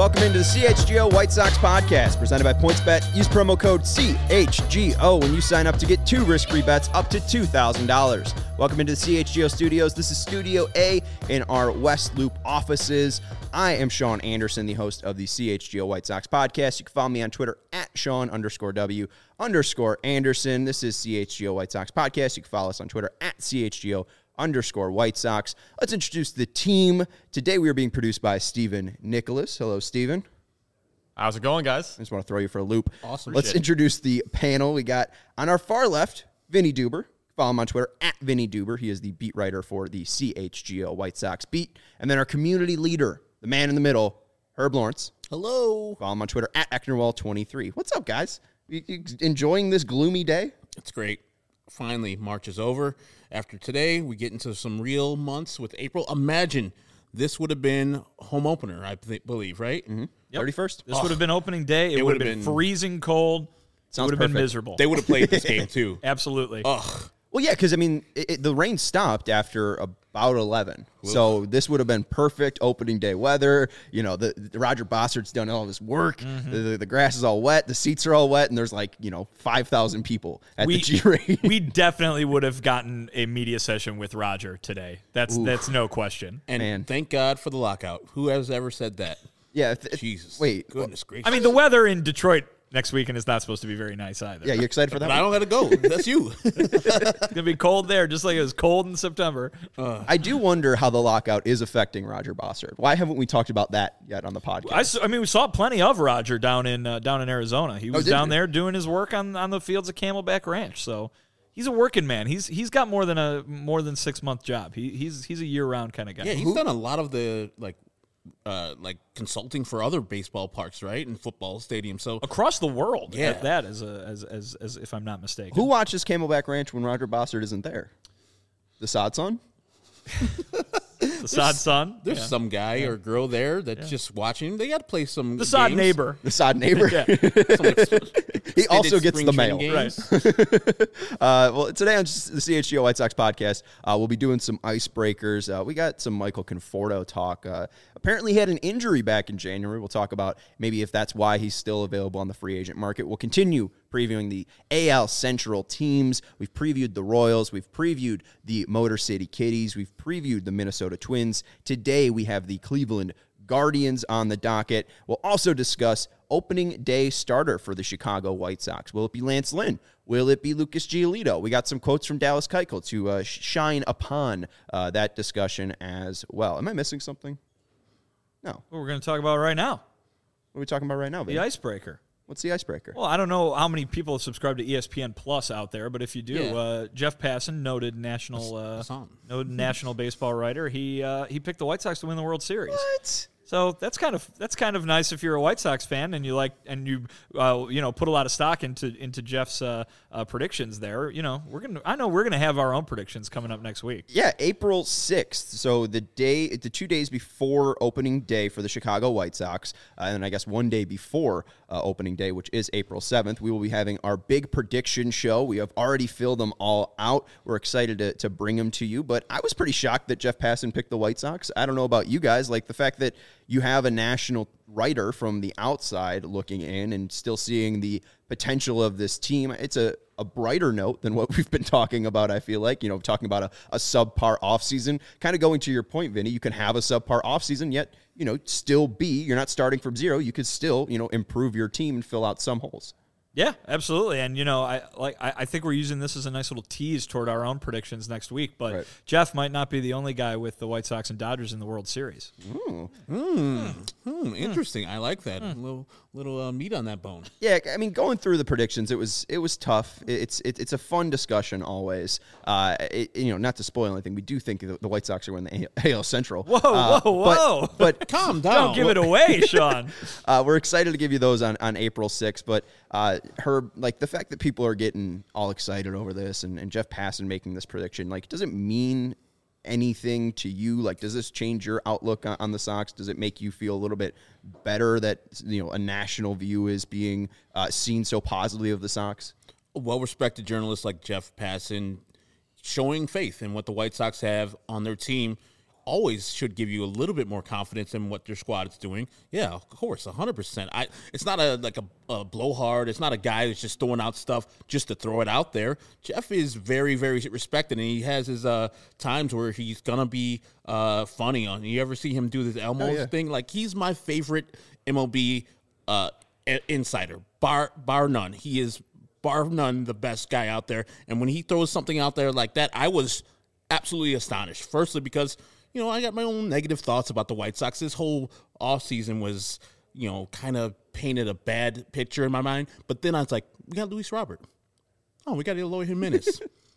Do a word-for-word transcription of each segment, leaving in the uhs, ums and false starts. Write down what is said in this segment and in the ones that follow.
welcome into the C H G O White Sox podcast presented by PointsBet. Use promo code C H G O when you sign up to get two risk-free bets up to two thousand dollars. Welcome into the C H G O studios. This is Studio A in our West Loop offices. I am Sean Anderson, the host of the C H G O White Sox podcast. You can follow me on Twitter at Sean underscore W underscore Anderson. This is C H G O White Sox podcast. You can follow us on Twitter at C H G O underscore White Sox. Let's introduce the team. Today we are being produced by Stephen Nicholas. Hello, Stephen. How's it going, guys? I just want to throw you for a loop. Awesome. Let's shit. introduce the panel. We got on our far left, Vinny Duber. Follow him on Twitter at Vinny Duber. He is the beat writer for the C H G O White Sox beat. And then our community leader, the man in the middle, Herb Lawrence. Hello. Follow him on Twitter at Ecknerwall twenty-three. What's up, guys? You, you enjoying this gloomy day? It's great. Finally, March is over. After today, we get into some real months with April. Imagine this would have been home opener, I th- believe, right? Mm-hmm. Yep. thirty-first? This oh. would have been opening day. It, It would have would've been, been- freezing cold. Sounds it would have been perfect. miserable. They would have played this game, too. Absolutely. Ugh. Well, yeah, because, I mean, it, it, the rain stopped after about eleven. Oof. So this would have been perfect opening day weather. You know, the, the Roger Bossard's done all his work. Mm-hmm. The, the grass is all wet. The seats are all wet. And there's like, you know, five thousand people at we, the G-Rain. We definitely would have gotten a media session with Roger today. That's Oof. that's no question. And Man. Thank God for the lockout. Who has ever said that? Yeah. Th- Jesus. Wait. Goodness gracious. I mean, the weather in Detroit next weekend is not supposed to be very nice either. Yeah, you excited for that? But I don't got to go. That's you. It's going to be cold there, just like it was cold in September. Uh, I do wonder how the lockout is affecting Roger Bossard. Why haven't we talked about that yet on the podcast? I, s- I mean, we saw plenty of Roger down in uh, down in Arizona. He was oh, down you? there doing his work on, on the fields of Camelback Ranch. So he's a working man. He's he's got more than a more than six month job. He he's he's a year round kind of guy. Yeah, he's Who? done a lot of the, like, Uh, like consulting for other baseball parks, right, and football stadiums. So across the world, yeah. at that as a as, as as if I'm not mistaken. Who watches Camelback Ranch when Roger Bossard isn't there? The Sod Son? The Sod Son? There's yeah. some guy yeah. or girl there that's yeah. just watching. They got to play some The Sod games. neighbor. The Sod neighbor? Yeah. He also gets the mail. Right. uh, well, today on the C H G O White Sox podcast, uh, we'll be doing some icebreakers. Uh, we got some Michael Conforto talk. Uh, apparently he had an injury back in January. We'll talk about maybe if that's why he's still available on the free agent market. We'll continue previewing the A L Central teams. We've previewed the Royals. We've previewed the Motor City Kitties. We've previewed the Minnesota Twins. Today we have the Cleveland Guardians on the docket. We'll also discuss opening day starter for the Chicago White Sox. Will it be Lance Lynn? Will it be Lucas Giolito? We got some quotes from Dallas Keuchel to uh, shine upon uh, that discussion as well. Am I missing something? No. What we're going to talk about right now. What are we talking about right now, Vin? The icebreaker. What's the icebreaker? Well, I don't know how many people subscribe to E S P N Plus out there, but if you do, Yeah. uh, Jeff Passan, noted national uh, noted national baseball writer, he uh, he picked the White Sox to win the World Series. What? So that's kind of that's kind of nice if you're a White Sox fan and you like and you uh, you know put a lot of stock into into Jeff's uh, uh, predictions there. You know we're gonna I know we're gonna have our own predictions coming up next week. Yeah, April sixth. So the day, the two days before opening day for the Chicago White Sox, uh, and I guess one day before uh, opening day, which is April seventh, we will be having our big prediction show. We have already filled them all out. We're excited to, to bring them to you, but I was pretty shocked that Jeff Passan picked the White Sox. I don't know about you guys, like the fact that you have a national writer from the outside looking in and still seeing the potential of this team. It's a, a brighter note than what we've been talking about, I feel like. You know, talking about a, a subpar offseason. Kind of going to your point, Vinny, you can have a subpar offseason, yet, you know, still be, you're not starting from zero. You could still, you know, improve your team and fill out some holes. Yeah, absolutely. And, you know, I like I, I think we're using this as a nice little tease toward our own predictions next week. But right. Jeff might not be the only guy with the White Sox and Dodgers in the World Series. Mm. Mm. Mm. Interesting. I like that. Mm. A little little uh, meat on that bone. Yeah, I mean, going through the predictions, it was it was tough. It's it, it's a fun discussion always. Uh, it, you know, not to spoil anything, we do think the, the White Sox are in the A L Central. Whoa, uh, whoa, whoa! But, but calm down. Don't give it away, Sean. uh, we're excited to give you those on, on April sixth. But uh, Herb, like the fact that people are getting all excited over this, and, and Jeff Passan making this prediction, like, does it mean anything to you? Like, does this change your outlook on, on the Sox? Does it make you feel a little bit better that, you know, a national view is being uh, seen so positively of the Sox? A well-respected journalist like Jeff Passan showing faith in what the White Sox have on their team always should give you a little bit more confidence in what your squad is doing. Yeah, of course, one hundred percent. I, it's not a like a, a blowhard. It's not a guy that's just throwing out stuff just to throw it out there. Jeff is very, very respected, and he has his uh, times where he's going to be uh, funny. On You ever see him do this Elmo Oh, yeah. thing? Like, he's my favorite M L B uh, insider, bar bar none. He is, bar none, the best guy out there. And when he throws something out there like that, I was absolutely astonished. Firstly, because, you know, I got my own negative thoughts about the White Sox. This whole offseason was, you know, kind of painted a bad picture in my mind. But then I was like, we got Luis Robert. Oh, we got Eloy Jimenez.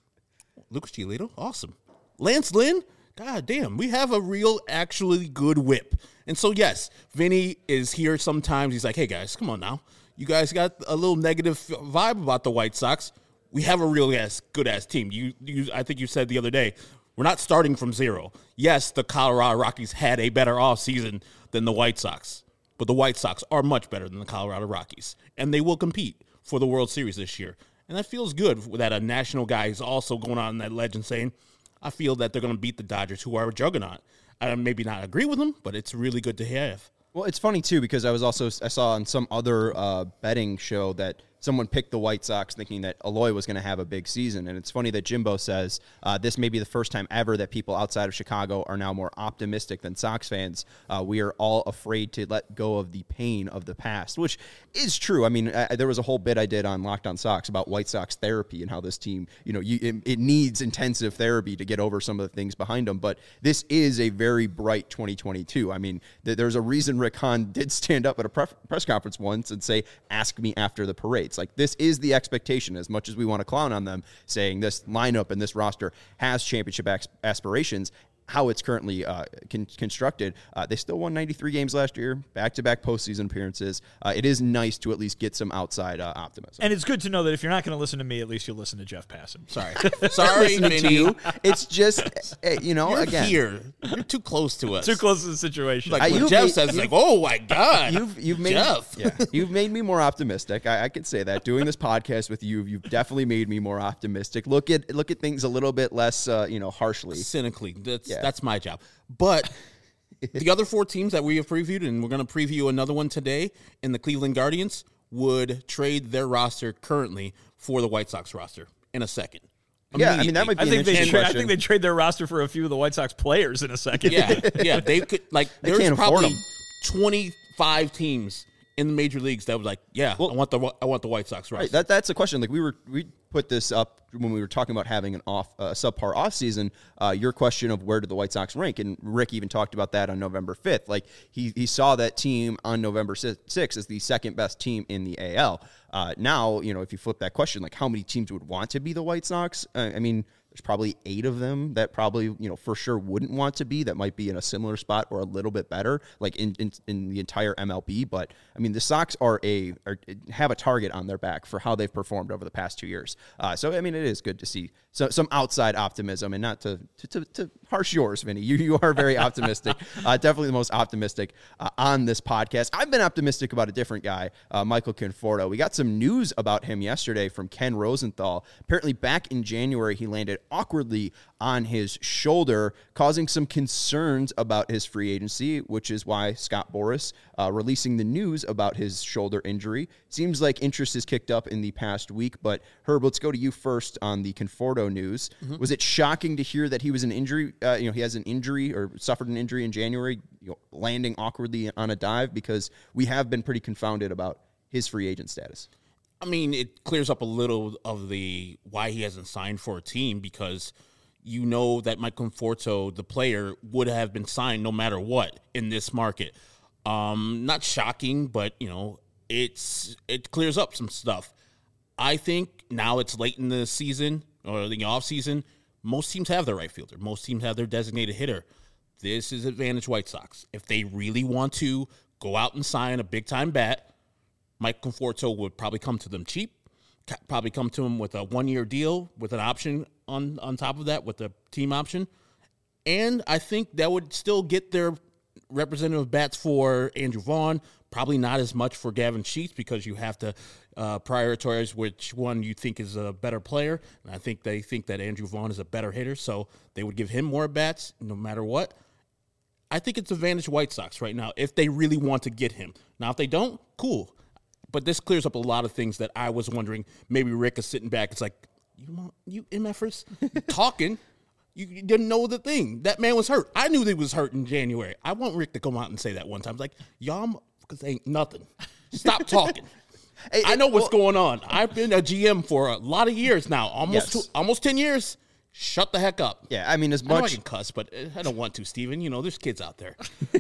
Lucas Giolito, awesome. Lance Lynn, god damn, we have a real, actually good whip. And so, yes, Vinny is here sometimes. He's like, hey, guys, come on now. You guys got a little negative vibe about the White Sox. We have a real ass, good ass team. You, you, I think you said the other day, we're not starting from zero. Yes, the Colorado Rockies had a better offseason than the White Sox, but the White Sox are much better than the Colorado Rockies, and they will compete for the World Series this year. And that feels good that a national guy is also going on that ledge and saying, I feel that they're going to beat the Dodgers, who are a juggernaut. I maybe not agree with them, but it's really good to have. Well, it's funny, too, because I was also I saw on some other uh, betting show that someone picked the White Sox thinking that Eloy was going to have a big season. And it's funny that Jimbo says uh, this may be the first time ever that people outside of Chicago are now more optimistic than Sox fans. Uh, we are all afraid to let go of the pain of the past, which is true. I mean, I, there was a whole bit I did on Locked On Sox about White Sox therapy and how this team, you know, you, it, it needs intensive therapy to get over some of the things behind them. But this is a very bright twenty twenty-two. I mean, th- there's a reason Rick Hahn did stand up at a pref- press conference once and say, ask me after the parades. Like, this is the expectation, as much as we want to clown on them, saying this lineup and this roster has championship as- aspirations. How it's currently uh, con- constructed, uh, they still won ninety-three games last year, back-to-back postseason appearances. Uh, it is nice to at least get some outside uh, optimism. And it's good to know that if you're not going to listen to me, at least you'll listen to Jeff Passan. Sorry. Sorry, Listening to Vinny. you, it's just, eh, you know, You're again. here. You're too close to us. Too close to the situation. Like Uh, when you've Jeff made- says, it's like, oh, my God. You've you've made Jeff. yeah, you've made me more optimistic. I, I could say that. Doing this podcast with you, you've definitely made me more optimistic. Look at look at things a little bit less, uh, you know, harshly. Cynically. That's Yeah. that's my job. But the other four teams that we have previewed, and we're going to preview another one today, in the Cleveland Guardians, would trade their roster currently for the White Sox roster in a second. Yeah, I mean, that might be I an think they interesting tra- I question. think they trade their roster for a few of the White Sox players in a second. Yeah, yeah. They could, like, They there's can't afford probably them. twenty-five teams in the major leagues that was like, yeah, Well- I want the I want the White Sox roster. Right, that that's a question. Like we were, we put this up when we were talking about having an off, uh, subpar off season. Uh, your question of where did the White Sox rank, and Rick even talked about that on November fifth. Like he he saw that team on November sixth as the second best team in the A L. Uh, now, you know, if you flip that question, like how many teams would want to be the White Sox? Uh, I mean, there's probably eight of them that probably, you know, for sure wouldn't want to be, that might be in a similar spot or a little bit better, like in, in, in the entire M L B. But I mean, the Sox are a are, have a target on their back for how they've performed over the past two years. Uh, so I mean, it is good to see so, some outside optimism, and not to to, to, to harsh yours, Vinny. You you are very optimistic, uh, definitely the most optimistic uh, on this podcast. I've been optimistic about a different guy, uh, Michael Conforto. We got some news about him yesterday from Ken Rosenthal. Apparently, back in January, he landed awkwardly on his shoulder, causing some concerns about his free agency, which is why Scott Boras uh, releasing the news about his shoulder injury. Seems like interest has kicked up in the past week, but Herb, let's go to you first on the Conforto news. Mm-hmm. Was it shocking to hear that he was an injury, uh, you know, he has an injury or suffered an injury in January, you know, landing awkwardly on a dive? Because we have been pretty confounded about his free agent status. I mean, it clears up a little of the why he hasn't signed for a team, because you know that Mike Conforto, the player, would have been signed no matter what in this market. Um, not shocking, but, you know, it's it clears up some stuff. I think now it's late in the season or the off season. Most teams have their right fielder. Most teams have their designated hitter. This is advantage White Sox. If they really want to go out and sign a big-time bat, Mike Conforto would probably come to them cheap, probably come to them with a one-year deal with an option on, on top of that, with a team option. And I think that would still get their representative bats for Andrew Vaughn, probably not as much for Gavin Sheets, because you have to uh, prioritize which one you think is a better player. And I think they think that Andrew Vaughn is a better hitter, so they would give him more bats no matter what. I think it's advantage White Sox right now if they really want to get him. Now, if they don't, cool. But this clears up a lot of things that I was wondering. Maybe Rick is sitting back. It's like, you want you M F ers talking. You, you didn't know the thing. That man was hurt. I knew that he was hurt in January. I want Rick to come out and say that one time. It's like, y'all motherfuckers ain't nothing. Stop talking. Hey, I know what's well, going on. I've been a G M for a lot of years now, almost yes. two, almost ten years. Shut the heck up. Yeah, I mean, as I much... know I can cuss, but I don't want to, Steven. You know, there's kids out there.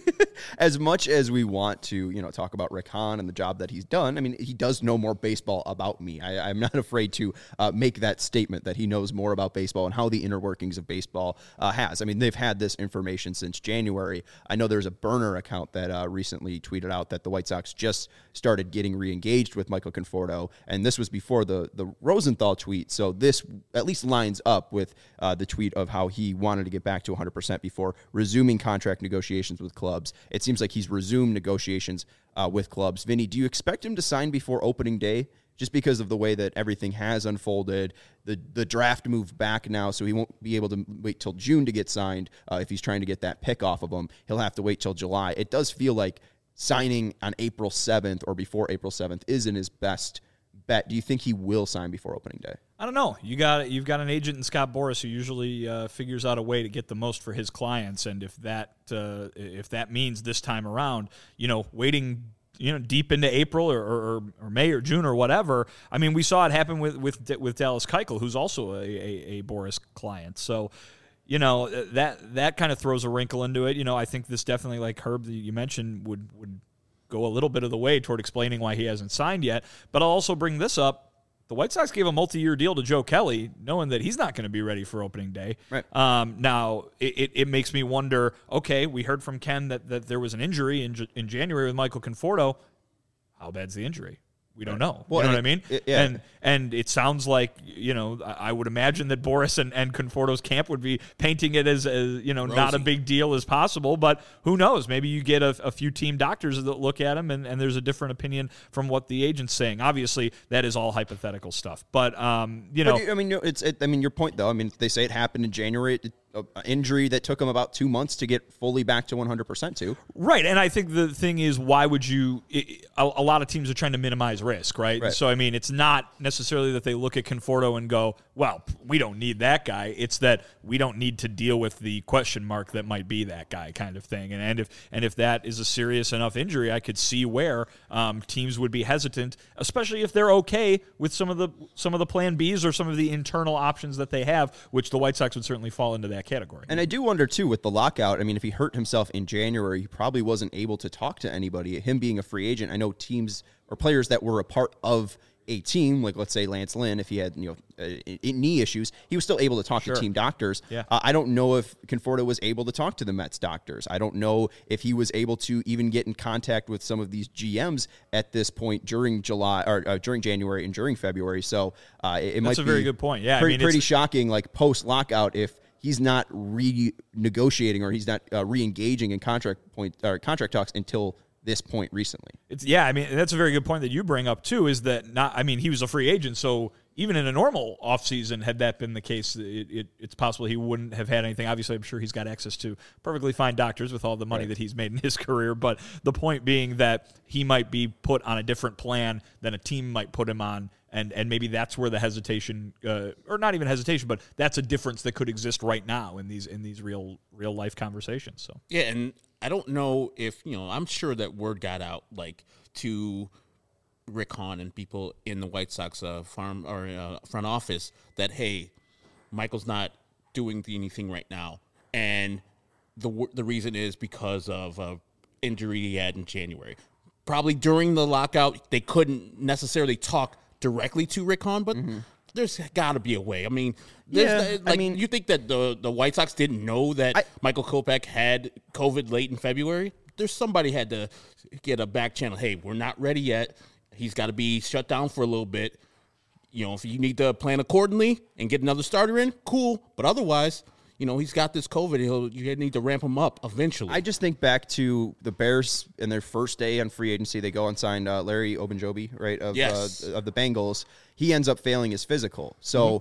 As much as we want to, you know, talk about Rick Hahn and the job that he's done, I mean, he does know more baseball about me. I, I'm not afraid to uh, make that statement that he knows more about baseball and how the inner workings of baseball uh, has. I mean, they've had this information since January. I know there's a burner account that uh, recently tweeted out that the White Sox just started getting re-engaged with Michael Conforto, and this was before the, the Rosenthal tweet, so this at least lines up with Uh, the tweet of how he wanted to get back to one hundred percent before resuming contract negotiations with clubs. It seems like he's resumed negotiations uh, with clubs. Vinny, do you expect him to sign before opening day just because of the way that everything has unfolded? The the draft moved back now, so he won't be able to wait till June to get signed. Uh, if he's trying to get that pick off of him, he'll have to wait till July. It does feel like signing on April seventh or before April seventh isn't his best bet. Do you think he will sign before opening day? I don't know. You got you've got an agent in Scott Boras who usually uh, figures out a way to get the most for his clients, and if that uh, if that means this time around, you know, waiting, you know, deep into April or, or, or May or June or whatever. I mean, we saw it happen with with with Dallas Keuchel, who's also a, a, a Boras client. So, you know, that that kind of throws a wrinkle into it. You know, I think this definitely, like Herb that you mentioned, would would go a little bit of the way toward explaining why he hasn't signed yet. But I'll also bring this up. The White Sox gave a multi-year deal to Joe Kelly, knowing that he's not going to be ready for opening day. Right. Um, now, it, it, it makes me wonder, okay, we heard from Ken that, that there was an injury in, in January with Michael Conforto. How bad's the injury? We don't know. Well, you know it, what I mean? It, yeah. And and it sounds like, you know, I would imagine that Boras and, and Conforto's camp would be painting it as, as you know, Rosy. not a big deal as possible. But who knows? Maybe you get a, a few team doctors that look at him and, and there's a different opinion from what the agent's saying. Obviously, that is all hypothetical stuff. But, um, you know. But, I mean, it's. It, I mean, your point, though. I mean, they say it happened in January. It, an injury that took him about two months to get fully back to one hundred percent to. Right, and I think the thing is, why would you it, a, a lot of teams are trying to minimize risk, right? right? So, I mean, it's not necessarily that they look at Conforto and go, well, we don't need that guy. It's that we don't need to deal with the question mark that might be that guy kind of thing. And, and, if, and if that is a serious enough injury, I could see where um, teams would be hesitant, especially if they're okay with some of the some of the plan Bs or some of the internal options that they have, which the White Sox would certainly fall into that category. And I do wonder, too, with the lockout, I mean, if he hurt himself in January, he probably wasn't able to talk to anybody. Him being a free agent, I know teams or players that were a part of a team, like let's say Lance Lynn, if he had you know uh, knee issues, he was still able to talk Sure. to team doctors. Yeah. Uh, I don't know if Conforto was able to talk to the Mets doctors. I don't know if he was able to even get in contact with some of these G Ms at this point during July or uh, during January and during February. So uh, it, it might That's a be very good point. Yeah, pretty, I mean, pretty it's, shocking, like post lockout, if he's not renegotiating or he's not uh, re-engaging in contract point or contract talks until this point recently. It's yeah, I mean that's a very good point that you bring up too. Is that not? I mean, he was a free agent, so even in a normal offseason, had that been the case, it, it, it's possible he wouldn't have had anything. Obviously, I'm sure he's got access to perfectly fine doctors with all the money right. that he's made in his career. But the point being that he might be put on a different plan than a team might put him on. And and maybe that's where the hesitation, uh, or not even hesitation, but that's a difference that could exist right now in these in these real real life conversations. So yeah, and I don't know if you know. I'm sure that word got out like to Rick Hahn and people in the White Sox uh, farm or uh, front office that hey, Michael's not doing anything right now, and the the reason is because of uh, injury he had in January. Probably during the lockout, they couldn't necessarily talk directly to Rick Hahn, but mm-hmm. there's got to be a way. I mean, yeah, like, I mean, you think that the the White Sox didn't know that I, Michael Kopech had COVID late in February? There's somebody had to get a back channel. Hey, we're not ready yet. He's got to be shut down for a little bit. You know, if you need to plan accordingly and get another starter in, cool. But otherwise, you know, he's got this COVID. He'll you need to ramp him up eventually. I just think back to the Bears in their first day on free agency. They go and sign uh, Larry Ogunjobi, right, of, yes. uh, of the Bengals. He ends up failing his physical. So mm-hmm.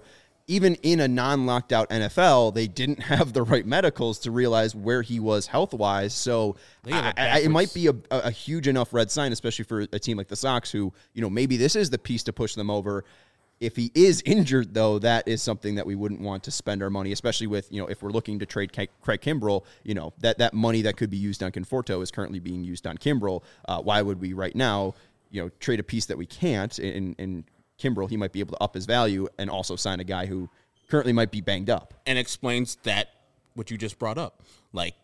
even in a non-locked out N F L, they didn't have the right medicals to realize where he was health-wise. So I, I, it might be a, a huge enough red sign, especially for a team like the Sox who, you know, maybe this is the piece to push them over. If he is injured, though, that is something that we wouldn't want to spend our money, especially with, you know, if we're looking to trade Craig Kimbrel, you know, that, that money that could be used on Conforto is currently being used on Kimbrel. Uh, why would we right now, you know, trade a piece that we can't in, in Kimbrel? He might be able to up his value and also sign a guy who currently might be banged up. And explains that what you just brought up. Like,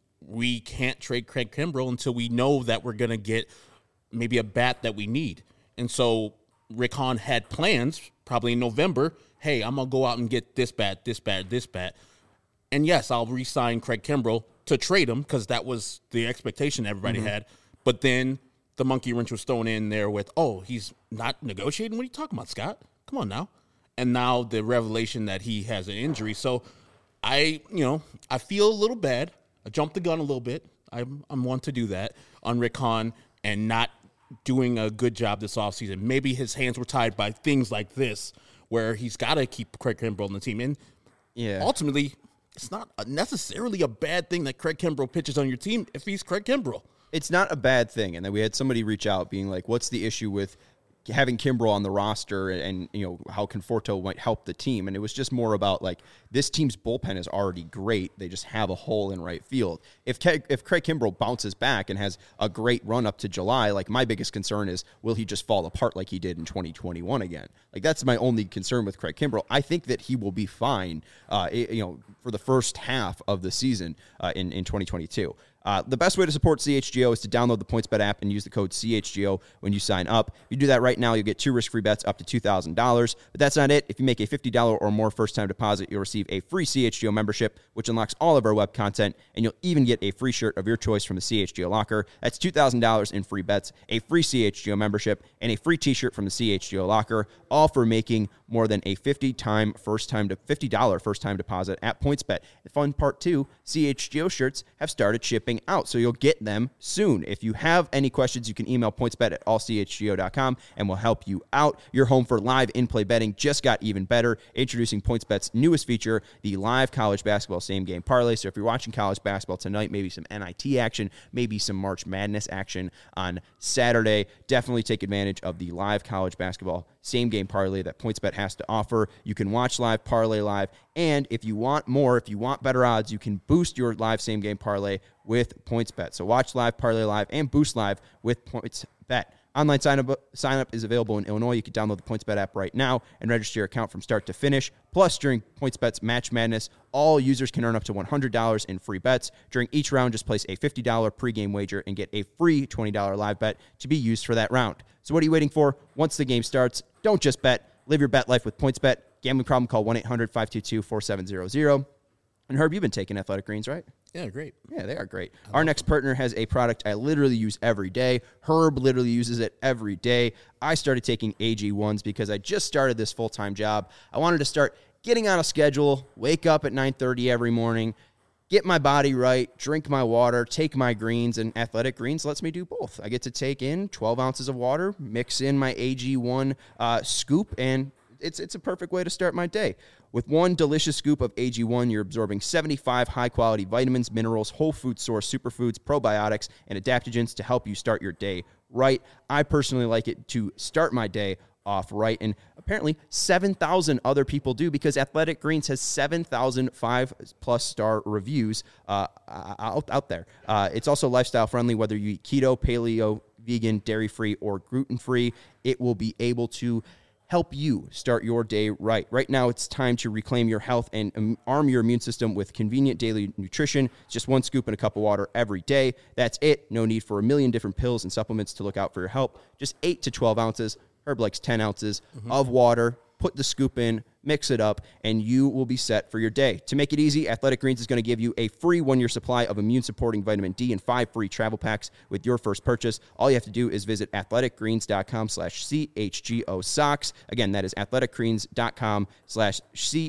we can't trade Craig Kimbrel until we know that we're going to get maybe a bat that we need. And so Rick Hahn had plans probably in November. Hey, I'm going to go out and get this bat, this bat, this bat. And yes, I'll re-sign Craig Kimbrel to trade him because that was the expectation everybody mm-hmm. had. But then the monkey wrench was thrown in there with, oh, he's not negotiating? What are you talking about, Scott? Come on now. And now the revelation that he has an injury. So I, you know, I feel a little bad. I jumped the gun a little bit. I'm, I'm one to do that on Rick Hahn and not doing a good job this offseason. Maybe his hands were tied by things like this where he's got to keep Craig Kimbrel on the team. And yeah. ultimately, it's not necessarily a bad thing that Craig Kimbrel pitches on your team if he's Craig Kimbrel. It's not a bad thing. And then we had somebody reach out being like, what's the issue with having Kimbrel on the roster and, and, you know, how Conforto might help the team. And it was just more about, like, this team's bullpen is already great. They just have a hole in right field. If Ke- if Craig Kimbrel bounces back and has a great run up to July, like, my biggest concern is, will he just fall apart like he did in twenty twenty-one again? Like, that's my only concern with Craig Kimbrel. I think that he will be fine, uh, you know, for the first half of the season uh, in, in twenty twenty-two. Uh, the best way to support C H G O is to download the PointsBet app and use the code C H G O when you sign up. If you do that right now, you'll get two risk-free bets up to two thousand dollars. But that's not it. If you make a fifty dollars or more first-time deposit, you'll receive a free C H G O membership, which unlocks all of our web content, and you'll even get a free shirt of your choice from the C H G O locker. That's two thousand dollars in free bets, a free C H G O membership, and a free t-shirt from the C H G O locker, all for making more than a fifty-time first-time to fifty dollars first-time deposit at PointsBet. The fun part, too, C H G O shirts have started shipping out, so you'll get them soon. If you have any questions, you can email pointsbet at all c h g o dot com, and we'll help you out. Your home for live in-play betting just got even better. Introducing PointsBet's newest feature, the live college basketball same-game parlay. So if you're watching college basketball tonight, maybe some N I T action, maybe some March Madness action on Saturday, definitely take advantage of the live college basketball same-game parlay that PointsBet has to offer. You can watch live, parlay live, and if you want more, if you want better odds, you can boost your live same-game parlay with PointsBet. So watch live, parlay live, and boost live with PointsBet. Online sign-up sign up is available in Illinois. You can download the PointsBet app right now and register your account from start to finish. Plus, during PointsBet's Match Madness, all users can earn up to one hundred dollars in free bets. During each round, just place a fifty dollars pregame wager and get a free twenty dollars live bet to be used for that round. So what are you waiting for? Once the game starts, don't just bet. Live your bet life with PointsBet. Gambling problem, call one eight hundred five two two four seven zero zero. And Herb, you've been taking Athletic Greens, right? Yeah, great. Yeah, they are great. Our next partner has a product I literally use every day. Herb literally uses it every day. I started taking A G ones because I just started this full-time job. I wanted to start getting on a schedule, wake up at nine thirty every morning, get my body right, drink my water, take my greens, and Athletic Greens lets me do both. I get to take in twelve ounces of water, mix in my A G one uh, scoop, and it's it's a perfect way to start my day. With one delicious scoop of A G one, you're absorbing seventy-five high-quality vitamins, minerals, whole food source superfoods, probiotics, and adaptogens to help you start your day right. I personally like it to start my day off right, and apparently seven thousand other people do because Athletic Greens has seven thousand five-plus star reviews uh, out, out there. Uh, it's also lifestyle-friendly, whether you eat keto, paleo, vegan, dairy-free, or gluten-free. It will be able to help you start your day right. Right now, it's time to reclaim your health and um, arm your immune system with convenient daily nutrition. It's just one scoop in a cup of water every day. That's it. No need for a million different pills and supplements to look out for your health. Just eight to twelve ounces. Herb likes ten ounces mm-hmm. of water. Put the scoop in, mix it up, and you will be set for your day. To make it easy, Athletic Greens is going to give you a free one-year supply of immune-supporting vitamin D and five free travel packs with your first purchase. All you have to do is visit athleticgreens.com slash CHGO socks. Again, that is athleticgreens.com slash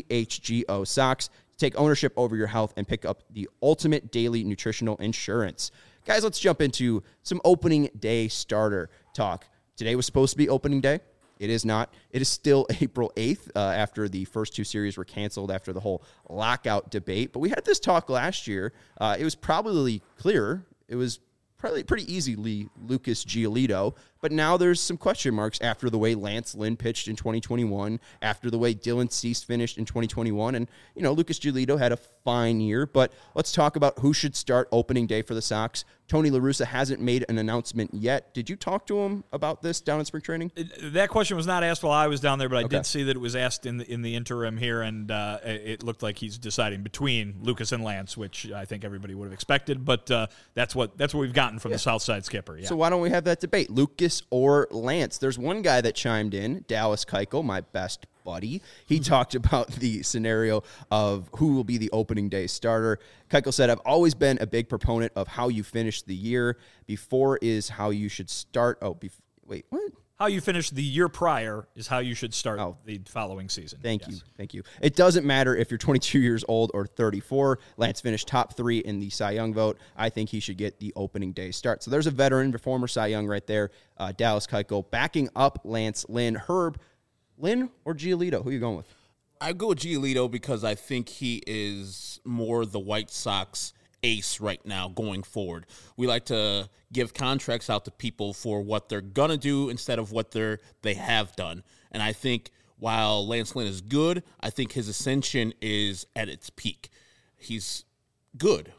CHGO socks. Take ownership over your health and pick up the ultimate daily nutritional insurance. Guys, let's jump into some opening day starter talk. Today was supposed to be opening day. It is not. It is still April eighth uh, after the first two series were canceled after the whole lockout debate. But we had this talk last year. Uh, it was probably clearer. It was probably pretty easily Lucas Giolito. But now there's some question marks after the way Lance Lynn pitched in twenty twenty-one, after the way Dylan Cease finished in twenty twenty-one. And, you know, Lucas Giolito had a fine year. But let's talk about who should start opening day for the Sox. Tony La Russa hasn't made an announcement yet. Did you talk to him about this down in spring training? That question was not asked while I was down there, but I Okay. did see that it was asked in the, in the interim here, and uh, it looked like he's deciding between Lucas and Lance, which I think everybody would have expected. But uh, that's what that's what we've gotten from Yeah. the Southside skipper. Yeah. So why don't we have that debate? Lucas or Lance? There's one guy that chimed in, Dallas Keuchel, my best buddy. He talked about the scenario of who will be the opening day starter. Keuchel said, I've always been a big proponent of how you finish the year. Before is how you should start. Oh, bef- wait, what? How you finish the year prior is how you should start Oh. the following season. Thank Yes. you. Thank you. It doesn't matter if you're twenty-two years old or thirty-four. Lance finished top three in the Cy Young vote. I think he should get the opening day start. So there's a veteran, the former Cy Young right there, uh, Dallas Keuchel, backing up Lance Lynn. Herb, Lynn or Giolito? Who are you going with? I go with Giolito because I think he is more the White Sox ace right now going forward. We like to give contracts out to people for what they're going to do instead of what they're they have done. And I think while Lance Lynn is good, I think his ascension is at its peak. He's good.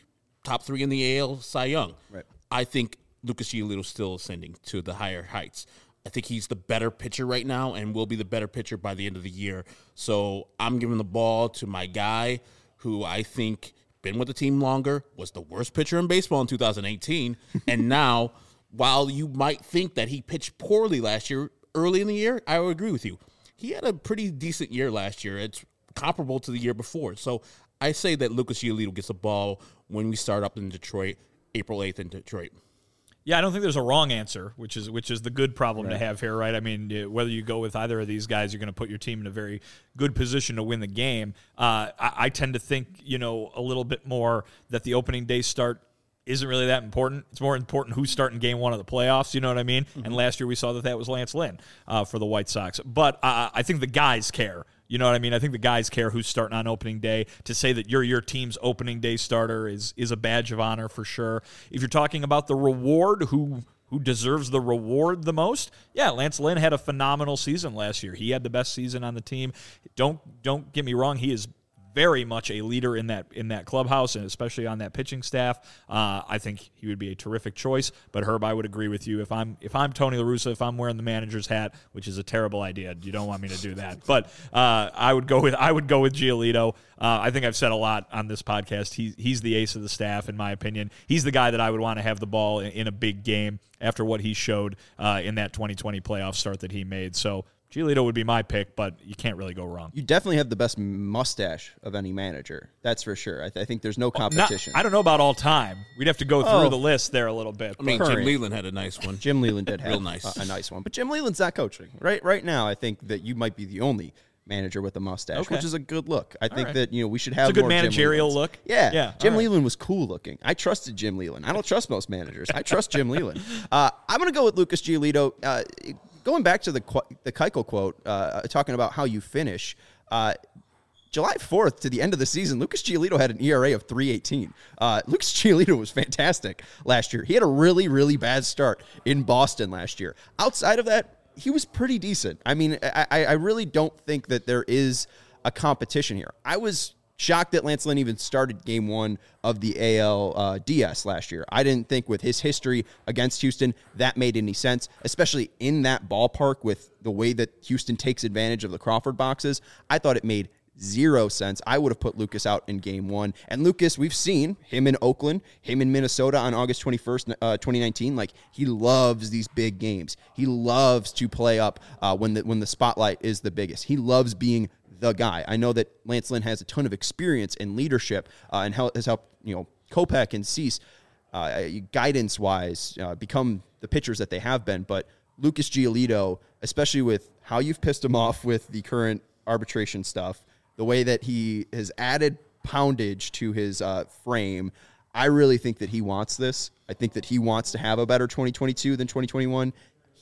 Top three in the A L Cy Young. Right. I think Lucas Giolito is still ascending to the higher heights. I think he's the better pitcher right now and will be the better pitcher by the end of the year. So I'm giving the ball to my guy who I think been with the team longer, was the worst pitcher in baseball in two thousand eighteen. And now, while you might think that he pitched poorly last year, early in the year, I would agree with you. He had a pretty decent year last year. It's comparable to the year before. So I say that Lucas Giolito gets the ball when we start up in Detroit, April eighth in Detroit. Yeah, I don't think there's a wrong answer, which is which is the good problem right. to have here, right? I mean, whether you go with either of these guys, you're going to put your team in a very good position to win the game. Uh, I, I tend to think, you know, a little bit more that the opening day start isn't really that important. It's more important who's starting game one of the playoffs, you know what I mean? Mm-hmm. And last year we saw that that was Lance Lynn uh, for the White Sox. But uh, I think the guys care. You know what I mean? I think the guys care who's starting on opening day. To say that you're your team's opening day starter is is a badge of honor for sure. If you're talking about the reward, who who deserves the reward the most? Yeah, Lance Lynn had a phenomenal season last year. He had the best season on the team. Don't don't get me wrong. He is very much a leader in that in that clubhouse and especially on that pitching staff. Uh, I think he would be a terrific choice. But Herb, I would agree with you. If I'm if I'm Tony La Russa, if I'm wearing the manager's hat, which is a terrible idea, you don't want me to do that. But uh, I would go with I would go with Giolito. Uh, I think I've said a lot on this podcast. He, he's the ace of the staff, in my opinion. He's the guy that I would want to have the ball in, in a big game after what he showed uh, in that twenty twenty playoff start that he made. So Giolito would be my pick, but you can't really go wrong. You definitely have the best mustache of any manager. That's for sure. I, th- I think there's no competition. Not, I don't know about all time. We'd have to go through Oh. the list there a little bit. I mean, Current. Jim Leland had a nice one. Jim Leland did have Real nice. a, a nice one. But Jim Leland's not coaching. Right right now, I think that you might be the only manager with a mustache, Okay. which is a good look. I think right. that, you know, we should have It's a good more Jim managerial Lelands. look. Yeah. Yeah, Jim all right. Leland was cool looking. I trusted Jim Leland. I don't trust most managers. I trust Jim Leland. Uh, I'm going to go with Lucas Giolito. Uh, going back to the qu- the Keuchel quote, uh, talking about how you finish, uh, July fourth to the end of the season, Lucas Giolito had an E R A of three eighteen. Uh, Lucas Giolito was fantastic last year. He had a really, really bad start in Boston last year. Outside of that, he was pretty decent. I mean, I, I really don't think that there is a competition here. I was shocked that Lance Lynn even started game one of the A L uh, D S last year. I didn't think with his history against Houston that made any sense, especially in that ballpark with the way that Houston takes advantage of the Crawford boxes. I thought it made zero sense. I would have put Lucas out in game one. And Lucas, we've seen him in Oakland, him in Minnesota on August twenty-first, uh, twenty nineteen. Like, he loves these big games. He loves to play up uh, when the when the spotlight is the biggest. He loves being the guy. I know that Lance Lynn has a ton of experience in leadership uh, and hel- has helped, you know, Kopech and Cease uh, guidance-wise uh, become the pitchers that they have been. But Lucas Giolito, especially with how you've pissed him off with the current arbitration stuff, the way that he has added poundage to his uh, frame, I really think that he wants this. I think that he wants to have a better twenty twenty-two than twenty twenty-one.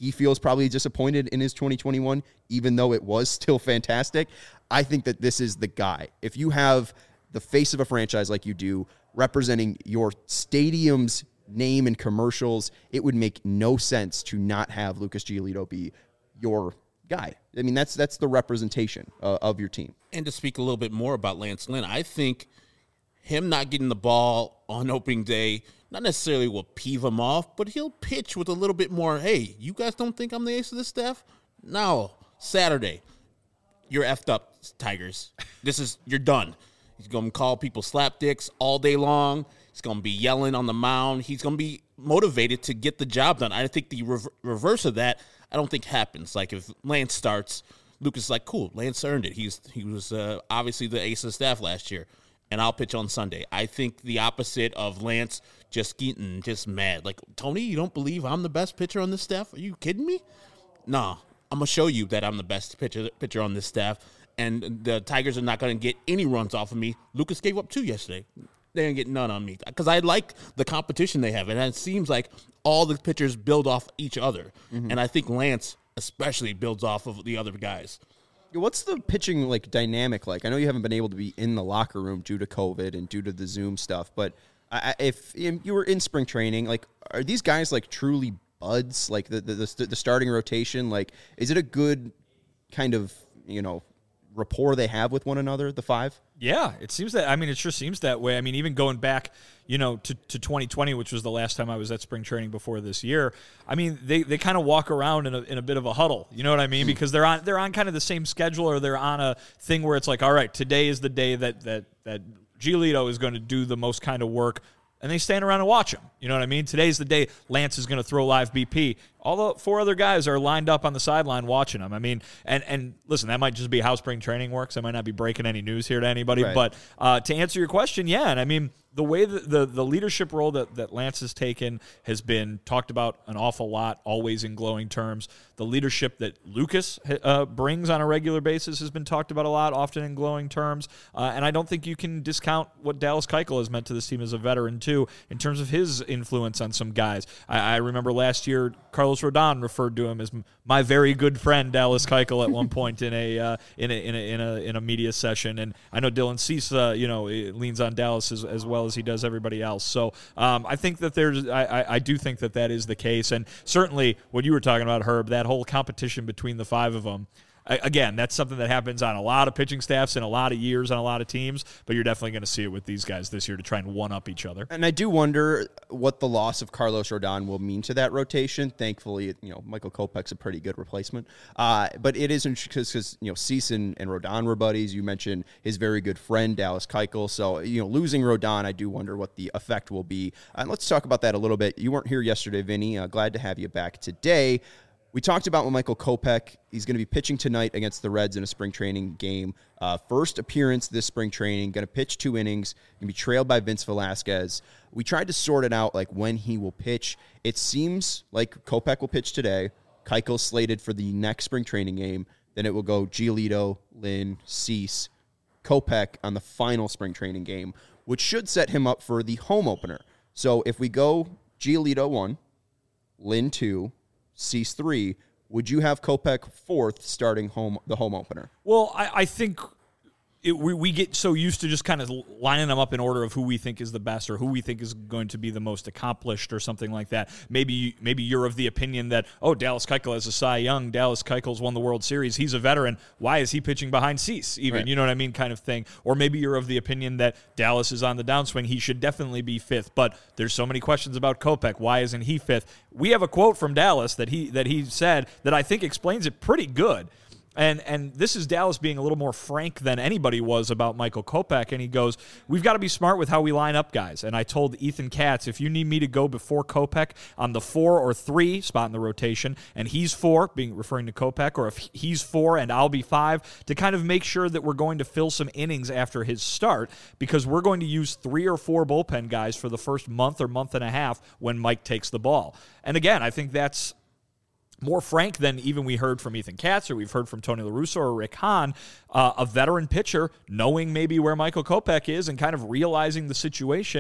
he feels probably disappointed in his twenty twenty-one, even though it was still fantastic. I think that this is the guy. If you have the face of a franchise like you do, representing your stadium's name and commercials, it would make no sense to not have Lucas Giolito be your guy. I mean, that's that's the representation uh, of your team. And to speak a little bit more about Lance Lynn, I think him not getting the ball on opening day not necessarily will peeve him off, but he'll pitch with a little bit more, hey, you guys don't think I'm the ace of this staff? No. Saturday, you're effed up, Tigers. This is, you're done. He's going to call people slapdicks all day long. He's going to be yelling on the mound. He's going to be motivated to get the job done. I think the rever- reverse of that, I don't think happens. Like if Lance starts, Lucas is like, cool, Lance earned it. He's He was uh, obviously the ace of the staff last year, and I'll pitch on Sunday. I think the opposite of Lance just getting just mad. Like, Tony, you don't believe I'm the best pitcher on this staff? Are you kidding me? Nah, I'm going to show you that I'm the best pitcher, pitcher on this staff, and the Tigers are not going to get any runs off of me. Lucas gave up two yesterday. They didn't get none on me because I like the competition they have, and it seems like all the pitchers build off each other, mm-hmm. and I think Lance especially builds off of the other guys. What's the pitching like dynamic like? I know you haven't been able to be in the locker room due to COVID and due to the Zoom stuff, but I, if you were in spring training, like, are these guys like truly buds? Like the the, the the starting rotation, like, is it a good kind of, you know, rapport they have with one another, the five? Yeah, it seems that, I mean, it sure seems that way. I mean, even going back, you know, to, to twenty twenty, which was the last time I was at spring training before this year, I mean, they, they kind of walk around in a, in a bit of a huddle, you know what I mean? Because they're on they're on kind of the same schedule, or they're on a thing where it's like, all right, today is the day that that that Giolito is going to do the most kind of work, and they stand around and watch him. You know what I mean? Today's the day Lance is going to throw live B P. All the four other guys are lined up on the sideline watching him. I mean, and and listen, that might just be how spring training works. I might not be breaking any news here to anybody, right. but uh, to answer your question, yeah, and I mean, the way that the, the leadership role that, that Lance has taken has been talked about an awful lot, always in glowing terms. The leadership that Lucas uh, brings on a regular basis has been talked about a lot, often in glowing terms. Uh, and I don't think you can discount what Dallas Keuchel has meant to this team as a veteran, too, in terms of his influence on some guys. I, I remember last year, Carlos Rodon referred to him as my very good friend, Dallas Keuchel, at one point in a, uh, in a in a in a in a media session. And I know Dylan Cease, uh, you know, leans on Dallas as, as well as he does everybody else. So um, I think that there's, I, I, I do think that that is the case. And certainly what you were talking about, Herb, that whole competition between the five of them, again, that's something that happens on a lot of pitching staffs in a lot of years on a lot of teams, but you're definitely going to see it with these guys this year to try and one-up each other. And I do wonder what the loss of Carlos Rodon will mean to that rotation. Thankfully, you know, Michael Kopech's a pretty good replacement. Uh, but it isn't because, you know, Cease and, and Rodon were buddies. You mentioned his very good friend, Dallas Keuchel. So, you know, losing Rodon, I do wonder what the effect will be. And let's talk about that a little bit. You weren't here yesterday, Vinny. Uh, glad to have you back today. We talked about with Michael Kopech. He's going to be pitching tonight against the Reds in a spring training game. Uh, first appearance this spring training. Going to pitch two innings. Going to be trailed by Vince Velasquez. We tried to sort it out, like when he will pitch. It seems like Kopech will pitch today. Keuchel's slated for the next spring training game. Then it will go Giolito, Lynn, Cease, Kopech on the final spring training game, which should set him up for the home opener. So if we go Giolito one, Lynn two, Cease three, would you have Kopech fourth starting home the home opener? Well, I, I think it, we, we get so used to just kind of lining them up in order of who we think is the best or who we think is going to be the most accomplished or something like that. Maybe maybe you're of the opinion that, oh, Dallas Keuchel is a Cy Young. Dallas Keuchel's won the World Series. He's a veteran. Why is he pitching behind Cease even? Right. You know what I mean, kind of thing. Or maybe you're of the opinion that Dallas is on the downswing. He should definitely be fifth. But there's so many questions about Kopech. Why isn't he fifth? We have a quote from Dallas that he that he said that I think explains it pretty good. And and this is Dallas being a little more frank than anybody was about Michael Kopech. And he goes, we've got to be smart with how we line up guys. And I told Ethan Katz, if you need me to go before Kopech on the four or three spot in the rotation, and he's four, being referring to Kopech, or if he's four and I'll be five, to kind of make sure that we're going to fill some innings after his start, because we're going to use three or four bullpen guys for the first month or month and a half when Mike takes the ball. And again, I think that's more frank than even we heard from Ethan Katz or we've heard from Tony La Russa or Rick Hahn, uh, a veteran pitcher knowing maybe where Michael Kopech is and kind of realizing the situation.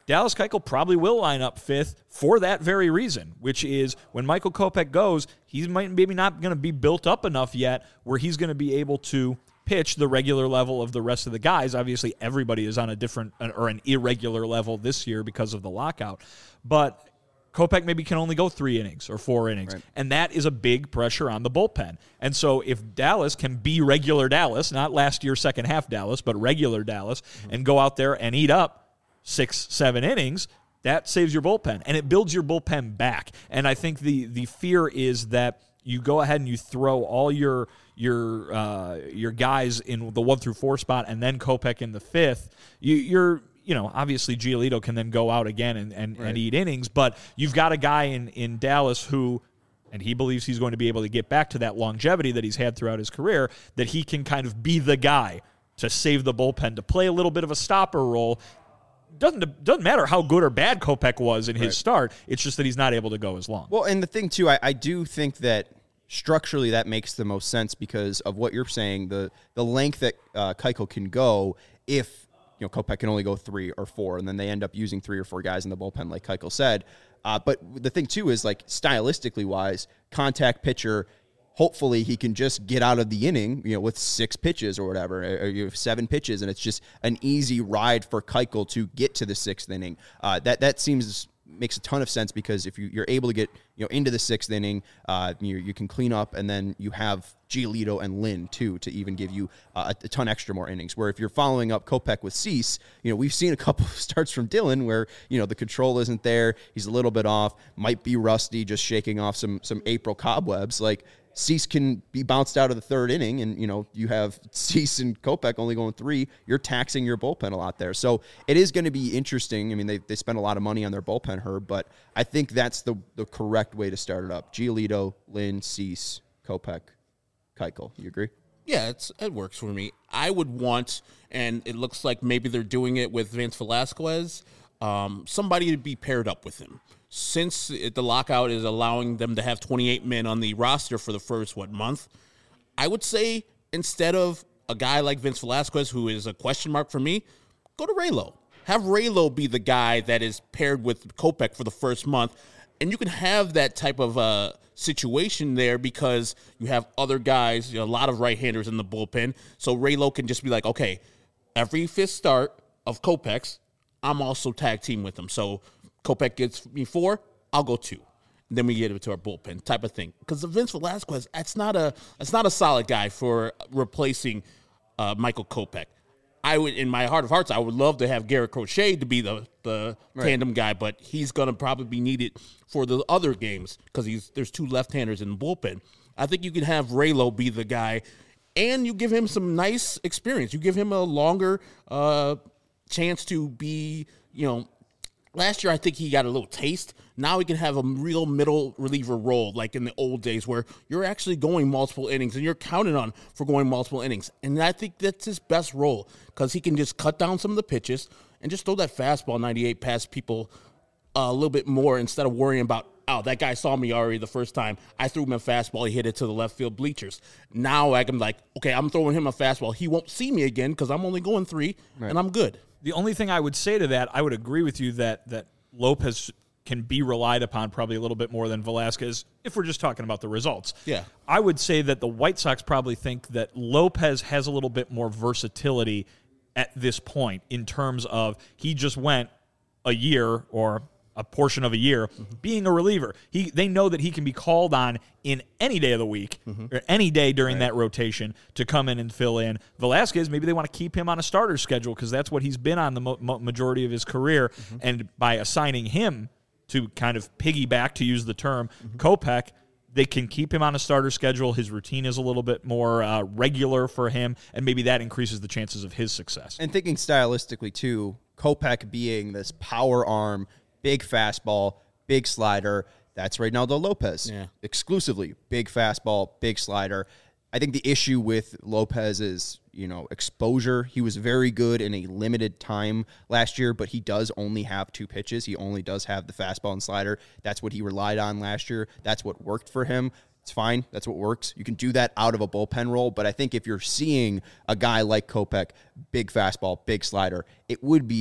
Dallas Keuchel probably will line up fifth for that very reason, which is when Michael Kopech goes, he's might maybe not going to be built up enough yet where he's going to be able to pitch the regular level of the rest of the guys. Obviously, everybody is on a different or an irregular level this year because of the lockout. But Kopech maybe can only go three innings or four innings, right. And that is a big pressure on the bullpen. And so if Dallas can be regular Dallas, not last year's second half Dallas, but regular Dallas, mm-hmm. and go out there and eat up six, seven innings, that saves your bullpen, and it builds your bullpen back. And I think the the fear is that you go ahead and you throw all your your uh, your guys in the one through four spot, and then Kopech in the fifth. You, you're you know obviously Giolito can then go out again and and, right. and eat innings, but you've got a guy in in Dallas who. And he believes he's going to be able to get back to that longevity that he's had throughout his career, that he can kind of be the guy to save the bullpen, to play a little bit of a stopper role. Doesn't doesn't matter how good or bad Kopech was in his right. start. It's just that he's not able to go as long. Well, and the thing, too, I, I do think that structurally that makes the most sense because of what you're saying, the the length that uh, Keuchel can go if you know Kopech can only go three or four, and then they end up using three or four guys in the bullpen, like Keuchel said. Uh, but the thing, too, is like stylistically wise, contact pitcher, hopefully he can just get out of the inning, you know, with six pitches or whatever, or you have seven pitches, and it's just an easy ride for Keuchel to get to the sixth inning. Uh, that that seems makes a ton of sense because if you, you're able to get you know into the sixth inning, uh, you you can clean up, and then you have Giolito and Lynn too to even give you uh, a, a ton extra more innings. Where if you're following up Kopech with Cease, you know we've seen a couple of starts from Dylan where you know the control isn't there, he's a little bit off, might be rusty, just shaking off some some April cobwebs. Like Cease can be bounced out of the third inning, and you know you have Cease and Kopech only going three. You're taxing your bullpen a lot there, so it is going to be interesting. I mean, they they spend a lot of money on their bullpen, Herb, but I think that's the the correct way to start it up. Giolito, Lynn, Cease, Kopech, Keuchel. You agree? Yeah, it's it works for me. I would want, and it looks like maybe they're doing it with Vince Velasquez, um, somebody to be paired up with him. Since it, the lockout is allowing them to have twenty-eight men on the roster for the first, what, month, I would say instead of a guy like Vince Velasquez, who is a question mark for me, go to Raylo. Have Raylo be the guy that is paired with Kopech for the first month, and you can have that type of uh, situation there because you have other guys, you know, a lot of right-handers in the bullpen, so Raylo can just be like, okay, every fifth start of Kopech's, I'm also tag team with him, so Kopech gets me four, I'll go two. And then we get it to our bullpen type of thing. Because Vince Velasquez, that's not a that's not a solid guy for replacing uh, Michael Kopech. I would, in my heart of hearts, I would love to have Garrett Crochet to be the the right. tandem guy, but he's going to probably be needed for the other games because he's there's two left-handers in the bullpen. I think you can have Raylo be the guy, and you give him some nice experience. You give him a longer uh, chance to be, you know. Last year, I think he got a little taste. Now he can have a real middle reliever role, like in the old days, where you're actually going multiple innings and you're counted on for going multiple innings. And I think that's his best role because he can just cut down some of the pitches and just throw that fastball ninety-eight past people uh, a little bit more instead of worrying about, oh, that guy saw me already the first time. I threw him a fastball. He hit it to the left field bleachers. Now I can like, okay, I'm throwing him a fastball. He won't see me again because I'm only going three, right. and I'm good. The only thing I would say to that, I would agree with you that that Lopez can be relied upon probably a little bit more than Velasquez if we're just talking about the results. Yeah. I would say that the White Sox probably think that Lopez has a little bit more versatility at this point in terms of he just went a year or a portion of a year mm-hmm. being a reliever. He They know that he can be called on in any day of the week mm-hmm. or any day during right. that rotation to come in and fill in. Velasquez, maybe they want to keep him on a starter schedule because that's what he's been on the mo- mo- majority of his career. Mm-hmm. And by assigning him to kind of piggyback, to use the term, mm-hmm. Kopech, they can keep him on a starter schedule. His routine is a little bit more uh, regular for him, and maybe that increases the chances of his success. And thinking stylistically, too, Kopech being this power arm, big fastball, big slider. That's Reynaldo Lopez. Yeah. Exclusively big fastball, big slider. I think the issue with Lopez is, you know, exposure. He was very good in a limited time last year, but he does only have two pitches. He only does have the fastball and slider. That's what he relied on last year. That's what worked for him. It's fine. That's what works. You can do that out of a bullpen role, but I think if you're seeing a guy like Kopech, big fastball, big slider, it would be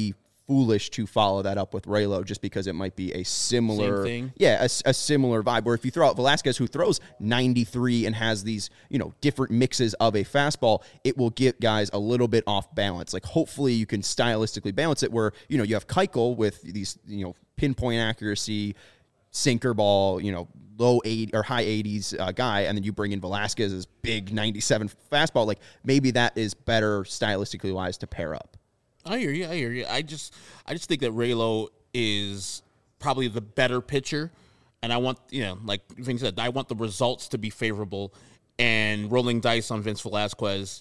foolish to follow that up with Raylo just because it might be a similar Same thing. yeah a, a similar vibe where if you throw out Velasquez who throws ninety-three and has these you know different mixes of a fastball, it will get guys a little bit off balance. Like hopefully you can stylistically balance it where you know you have Keuchel with these you know pinpoint accuracy sinker ball, you know low eight or high eighties uh, guy, and then you bring in Velasquez's big ninety-seven fastball. Like maybe that is better stylistically wise to pair up. I hear you. I hear you. I just, I just think that Raylo is probably the better pitcher, and I want, you know, like Vince said, I want the results to be favorable. And rolling dice on Vince Velasquez,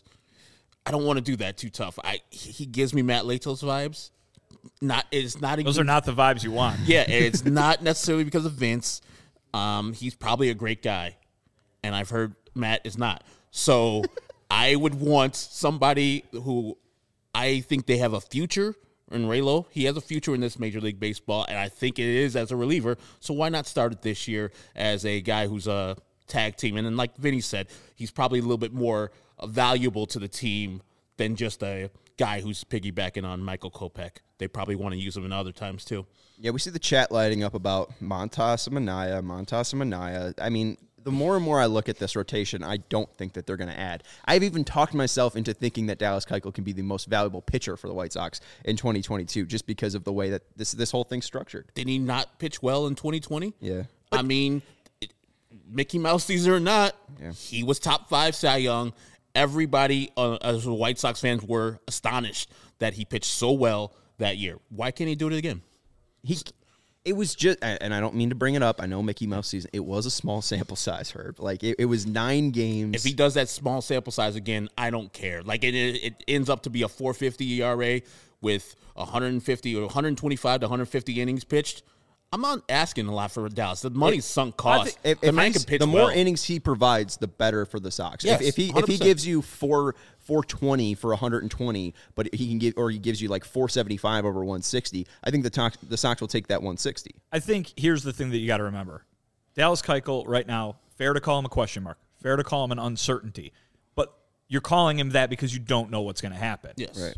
I don't want to do that too tough. I he gives me Matt Latos vibes. Not it's not. Those even, are not the vibes you want. Yeah, it's not necessarily because of Vince. Um, he's probably a great guy, and I've heard Matt is not. So I would want somebody who. I think they have a future in Raylo. He has a future in this Major League Baseball, and I think it is as a reliever. So why not start it this year as a guy who's a tag team? And then, like Vinny said, he's probably a little bit more valuable to the team than just a guy who's piggybacking on Michael Kopech. They probably want to use him in other times too. Yeah, we see the chat lighting up about Montas and Minaya, Montas and Minaya. I mean, the more and more I look at this rotation, I don't think that they're going to add. I've even talked myself into thinking that Dallas Keuchel can be the most valuable pitcher for the White Sox in twenty twenty-two just because of the way that this this whole thing's structured. Did he not pitch well in twenty twenty? Yeah. I mean, it, Mickey Mouse season or not, Yeah. he was top five Cy Young. Everybody, uh, as the White Sox fans, were astonished that he pitched so well that year. Why can't he do it again? He, it was just, and I don't mean to bring it up. I know Mickey Mouse season. It was a small sample size, Herb. Like it, it was nine games. If he does that small sample size again, I don't care. Like it, it ends up to be a four fifty E R A with one fifty or one twenty-five to one fifty innings pitched. I'm not asking a lot for Dallas. The money's sunk cost. If, the if man he's- can pitch the more well. innings he provides, the better for the Sox. Yes, if, if he one hundred if he percent. gives you four four twenty for one hundred twenty, but he can give or he gives you like four seventy five over one sixty, I think the Sox the Sox will take that one sixty. I think here's the thing that you got to remember. Dallas Keuchel right now, fair to call him a question mark, fair to call him an uncertainty, but you're calling him that because you don't know what's going to happen. Yes. Right.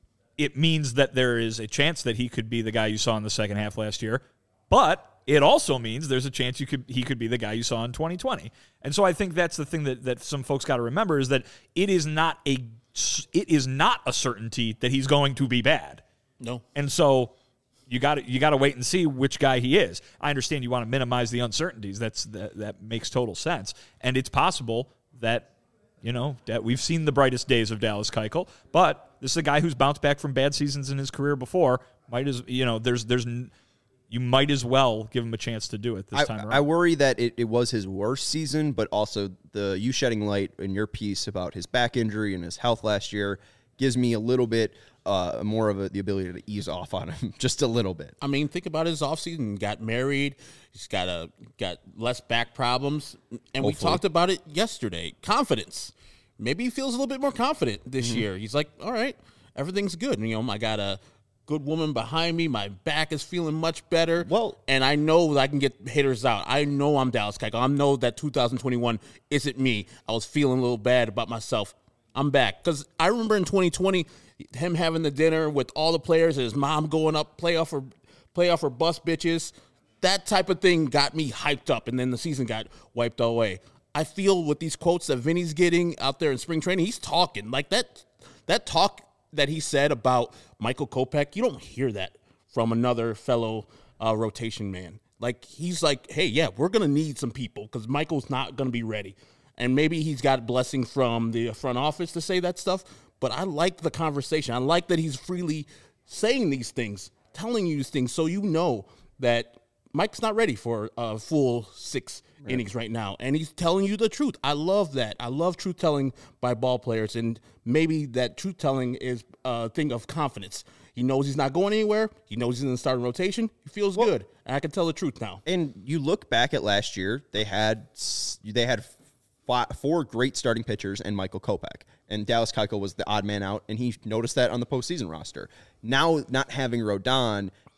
It means that there is a chance that he could be the guy you saw in the second half last year, but it also means there's a chance you could he could be the guy you saw in twenty twenty. And so I think that's the thing that, that some folks got to remember is that it is not a it is not a certainty that he's going to be bad. No. And so you got to you got to wait and see which guy he is. I understand you want to minimize the uncertainties. That's that, that makes total sense. And it's possible that you know that we've seen the brightest days of Dallas Keuchel, but this is a guy who's bounced back from bad seasons in his career before. Might as you know there's there's you might as well give him a chance to do it this I, time around. I worry that it, it was his worst season, but also the you shedding light in your piece about his back injury and his health last year gives me a little bit uh, more of a, the ability to ease off on him just a little bit. I mean, think about his offseason. Got married. He's got a got less back problems. And we Hopefully. talked about it yesterday. Confidence. Maybe he feels a little bit more confident this Mm-hmm. year. He's like, all right, everything's good. And, you know, I got a good woman behind me. My back is feeling much better. Well- and I know that I can get hitters out. I know I'm Dallas Keuchel. I know that two thousand twenty-one isn't me. I was feeling a little bad about myself. I'm back. Because I remember in twenty twenty, him having the dinner with all the players and his mom going up, play off her, play off her bus bitches. That type of thing got me hyped up, and then the season got wiped away. I feel with these quotes that Vinny's getting out there in spring training, he's talking. Like that that talk that he said about Michael Kopech, you don't hear that from another fellow uh, rotation man. Like, he's like, hey, yeah, we're going to need some people because Michael's not going to be ready. And maybe he's got blessing from the front office to say that stuff, but I like the conversation. I like that he's freely saying these things, telling you these things so you know that Mike's not ready for a full six right. innings right now, and he's telling you the truth. I love that. I love truth-telling by ball players, and maybe that truth-telling is a thing of confidence. He knows he's not going anywhere. He knows he's in the starting rotation. He feels well, good, and I can tell the truth now. And you look back at last year, they had they had five, four great starting pitchers and Michael Kopech, and Dallas Keuchel was the odd man out, and he noticed that on the postseason roster. Now, not having Rodon,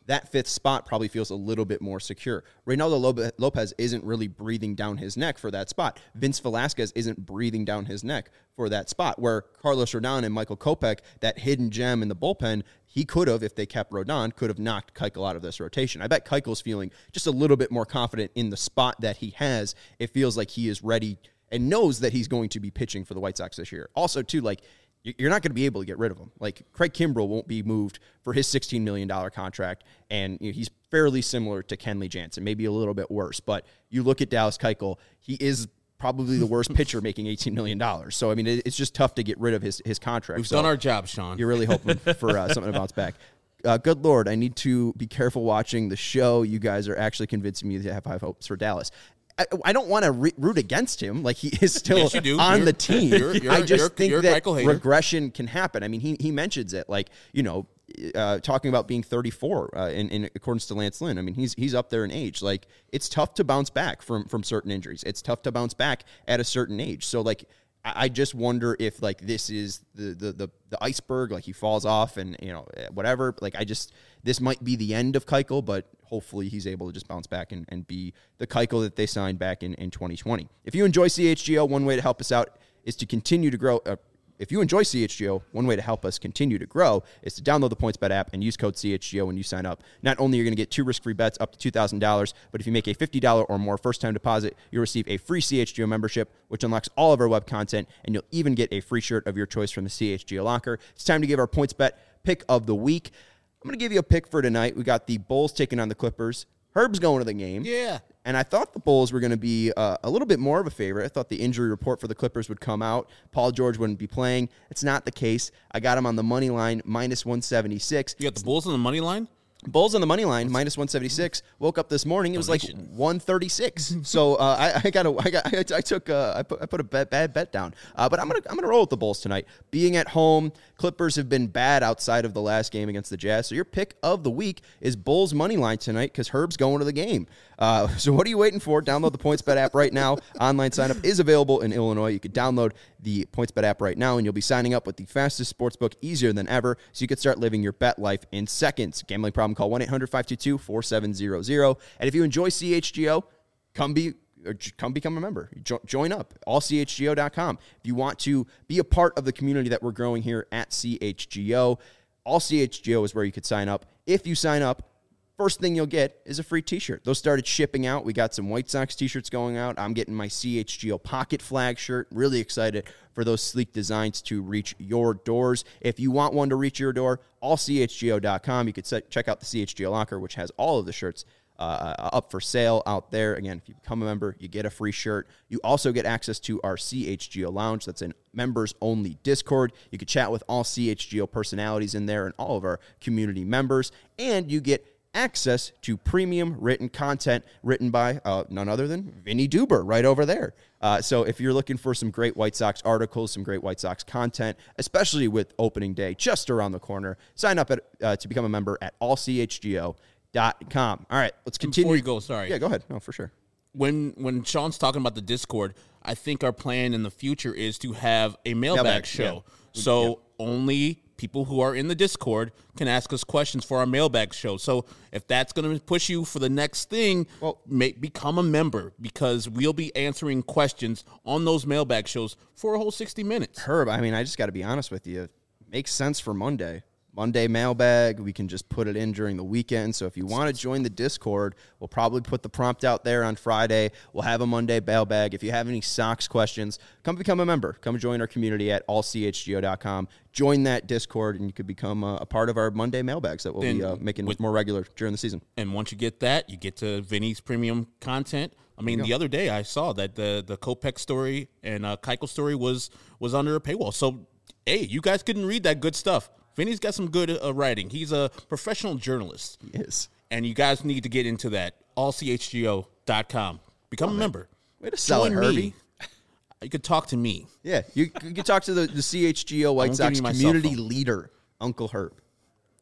that fifth spot probably feels a little bit more secure. Reynaldo Lopez isn't really breathing down his neck for that spot. Vince Velasquez isn't breathing down his neck for that spot, where Carlos Rodon and Michael Kopech, that hidden gem in the bullpen, he could have, if they kept Rodon, could have knocked Keuchel out of this rotation. I bet Keuchel's feeling just a little bit more confident in the spot that he has. It feels like he is ready and knows that he's going to be pitching for the White Sox this year. Also, too, like, you're not going to be able to get rid of him. Like, Craig Kimbrell won't be moved for his sixteen million dollars contract, and you know, he's fairly similar to Kenley Jansen, maybe a little bit worse. But you look at Dallas Keuchel, he is probably the worst pitcher making eighteen million dollars. So, I mean, it, it's just tough to get rid of his, his contract. We've so done our job, Sean. You're really hoping for uh, something to bounce back. Uh, good Lord, I need to be careful watching the show. You guys are actually convincing me to have high hopes for Dallas. I, I don't want to re- root against him. Like, he is still yes, you do. on you're, the team. You're, you're, I just you're, think you're that regression can happen. I mean, he he mentions it, like, you know, uh, talking about being thirty-four uh, in, in accordance to Lance Lynn. I mean, he's he's up there in age. Like, it's tough to bounce back from from certain injuries. It's tough to bounce back at a certain age. So, like, I, I just wonder if, like, this is the, the the the iceberg. Like, he falls off and, you know, whatever. Like, I just this might be the end of Keuchel, but hopefully he's able to just bounce back and, and be the Keuchel that they signed back in, in twenty twenty. If you enjoy C H G O, one way to help us out is to continue to grow. Uh, if you enjoy C H G O, one way to help us continue to grow is to download the PointsBet app and use code C H G O when you sign up. Not only are you going to get two risk-free bets up to two thousand dollars, but if you make a fifty dollars or more first-time deposit, you'll receive a free C H G O membership, which unlocks all of our web content, and you'll even get a free shirt of your choice from the C H G O locker. It's time to give our PointsBet pick of the week. I'm going to give you a pick for tonight. We got the Bulls taking on the Clippers. Herb's going to the game. Yeah. And I thought the Bulls were going to be uh, a little bit more of a favorite. I thought the injury report for the Clippers would come out. Paul George wouldn't be playing. It's not the case. I got him on the money line, minus one seventy-six. You got the Bulls on the money line? Bulls on the money line, minus one seventy-six. Woke up this morning, it was like one thirty-six. So uh, I, I got a, I got, I took, uh, I put, I put a bad, bad bet down. Uh, but I'm gonna, I'm gonna roll with the Bulls tonight. Being at home, Clippers have been bad outside of the last game against the Jazz. So your pick of the week is Bulls money line tonight because Herb's going to the game. Uh, so what are you waiting for? Download the PointsBet app right now. Online sign up is available in Illinois. You can download the PointsBet app right now, and you'll be signing up with the fastest sportsbook easier than ever, so you can start living your bet life in seconds. Gambling problem? Call one eight hundred five two two four seven zero zero. And if you enjoy C H G O, come be or come become a member. Jo- join up. all c h g o dot com. If you want to be a part of the community that we're growing here at C H G O, all C H G O is where you could sign up. If you sign up, first thing you'll get is a free t-shirt. Those started shipping out. We got some White Sox t-shirts going out. I'm getting my C H G O pocket flag shirt. Really excited for those sleek designs to reach your doors. If you want one to reach your door, all c h g o dot com. You could set, check out the C H G O locker, which has all of the shirts uh, up for sale out there. Again, if you become a member, you get a free shirt. You also get access to our C H G O lounge. That's an members-only Discord. You can chat with all C H G O personalities in there and all of our community members. And you get access to premium written content written by uh, none other than Vinny Duber right over there. Uh, so if you're looking for some great White Sox articles, some great White Sox content, especially with opening day just around the corner, sign up at, uh, to become a member at all c h g o dot com. All right, let's continue. Before you go, sorry. Yeah, go ahead. No, for sure. When when Sean's talking about the Discord, I think our plan in the future is to have a mailbag, Mailbag, show. yeah. So Yeah. only people who are in the Discord can ask us questions for our mailbag show. So if that's going to push you for the next thing, Well- may, become a member, because we'll be answering questions on those mailbag shows for a whole sixty minutes. Herb, I mean, I just got to be honest with you. Makes sense for Monday. Monday mailbag, we can just put it in during the weekend. So if you want to join the Discord, we'll probably put the prompt out there on Friday. We'll have a Monday mailbag. If you have any Sox questions, come become a member. Come join our community at all c h g o dot com. Join that Discord, and you could become a, a part of our Monday mailbags that we'll And be uh, making with- more regular during the season. And once you get that, you get to Vinny's premium content. I mean, the other day I saw that the the Kopech story and uh, Keuchel story was was under a paywall. So, hey, you guys couldn't read that good stuff. Vinny's got some good uh, writing. He's a professional journalist. Yes. And you guys need to get into that. all c h g o dot com. Become a member. Way to sell it, Join Herbie. me. You could talk to me. Yeah, you, you can talk to the, the C H G O White I'm Sox giving you my cell community phone. leader, Uncle Herb.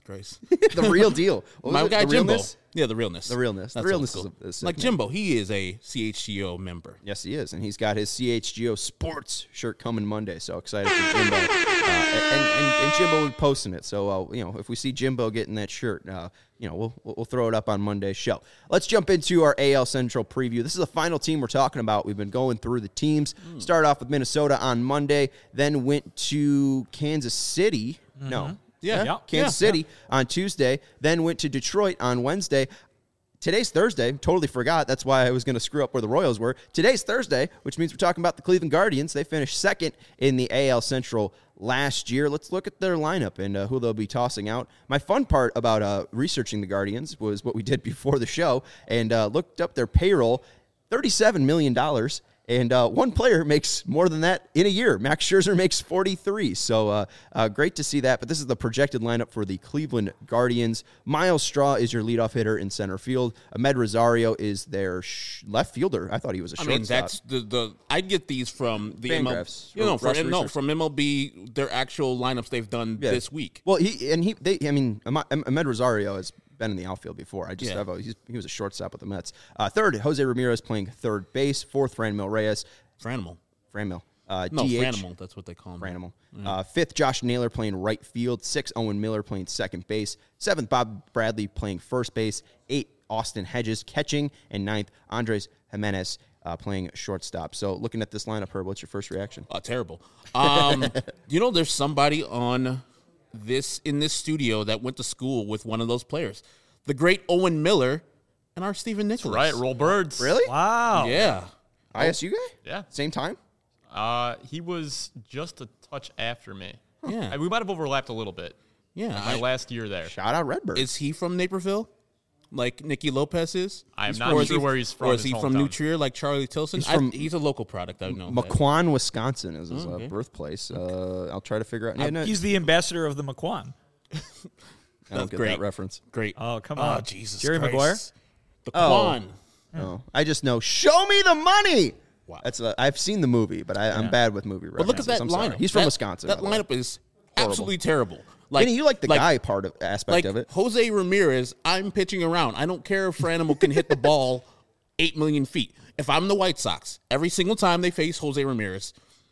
Christ. The real deal. What was My it? guy The Jimbo. realness? Yeah, the realness. The realness. The That's realness old is school. a- is a like sick Jimbo. He is a C H G O member. Yes, he is, and he's got his C H G O Sports shirt coming Monday. So excited for Jimbo, uh, and, and and Jimbo will be posting it. So uh, you know, if we see Jimbo getting that shirt, uh, you know, we'll we'll throw it up on Monday's show. Let's jump into our A L Central preview. This is the final team we're talking about. We've been going through the teams. Mm. Started off with Minnesota on Monday, then went to Kansas City. Mm-hmm. No, Yeah. Yeah. Kansas Yeah, City on Tuesday, then went to Detroit on Wednesday. Today's Thursday. Totally forgot. That's why I was going to screw up where the Royals were. Today's Thursday, which means we're talking about the Cleveland Guardians. They finished second in the A L Central last year. Let's look at their lineup and uh, who they'll be tossing out. My fun part about uh, researching the Guardians was what we did before the show and uh, looked up their payroll, thirty-seven million dollars. And uh, one player makes more than that in a year. Max Scherzer makes forty-three. So uh, uh, great to see that. But this is the projected lineup for the Cleveland Guardians. Miles Straw is your leadoff hitter in center field. Ahmed Rosario is their sh- left fielder. I thought he was a I shortstop. mean, that's the the. I get these from the M L B. Fangraphs, You know, or Rush from no Research. from M L B. Their actual lineups they've done Yeah. this week. Well, he and he. They. I mean, Ahmed Ahmed Rosario has been in the outfield before. I just Yeah. have a, he's, he was a shortstop with the Mets. Uh, third, Jose Ramirez playing third base. Fourth, Franmil Reyes. Franimal. Franmil. Uh, No, D H. Franimal. That's what they call him. Franimal. Uh, fifth, Josh Naylor playing right field. Sixth, Owen Miller playing second base. Seventh, Bob Bradley playing first base. Eight, Austin Hedges catching. And ninth, Andres Jimenez uh, playing shortstop. So looking at this lineup, Herb, what's your first reaction? Oh, terrible. Um, you know, there's somebody on this in this studio that went to school with one of those players, the great Owen Miller, and our Stephen Nicholas. Right, roll birds. Really? Wow. Yeah. I S U guy? Yeah. Same time? Uh, he was just a touch after me. Yeah. And we might have overlapped a little bit. Yeah. My I- last year there. Shout out Redbird. Is he from Naperville, like Nicky Lopez is? I am He's not from- or is sure he- where he's from, Or is his he from hometown. New Trier, like Charlie Tilson? He's I- from he's a local product. I know. that. Maquon, Wisconsin is his uh, okay. birthplace. Uh, I'll try to figure out. Yeah, no, He's the ambassador of the McQuan. I don't That's get great. that reference. Great. Oh, come Oh, on. Jesus Jerry Christ. Maguire? The Oh. Quan. Oh, I just know. Show me the money. Wow. That's uh, I've seen the movie, but I, I'm bad with movie references. But look at that I'm sorry. lineup. He's from That- Wisconsin. That by the way. lineup is absolutely terrible. Like Vinny, you like the guy part of aspect like of it. Jose Ramirez, I'm pitching around. I don't care if Franimal can hit the ball eight million feet. If I'm the White Sox, every single time they face Jose Ramirez,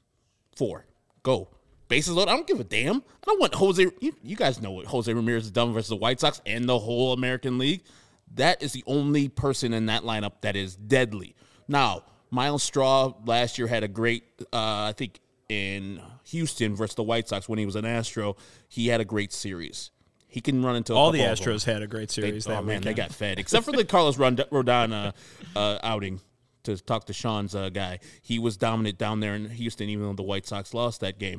four, go. Bases loaded. I don't give a damn. I don't want Jose. You, you guys know what Jose Ramirez has done versus the White Sox and the whole American League. That is the only person in that lineup that is deadly. Now, Miles Straw last year had a great, uh, I think, in Houston versus the White Sox when he was an Astro. He had a great series. He can run into a All the couple of them. Astros had a great They, series oh that man, they weekend. got fed. Except for the Carlos Rond- Rodon uh, uh, outing to talk to Sean's uh, guy. He was dominant down there in Houston, even though the White Sox lost that game.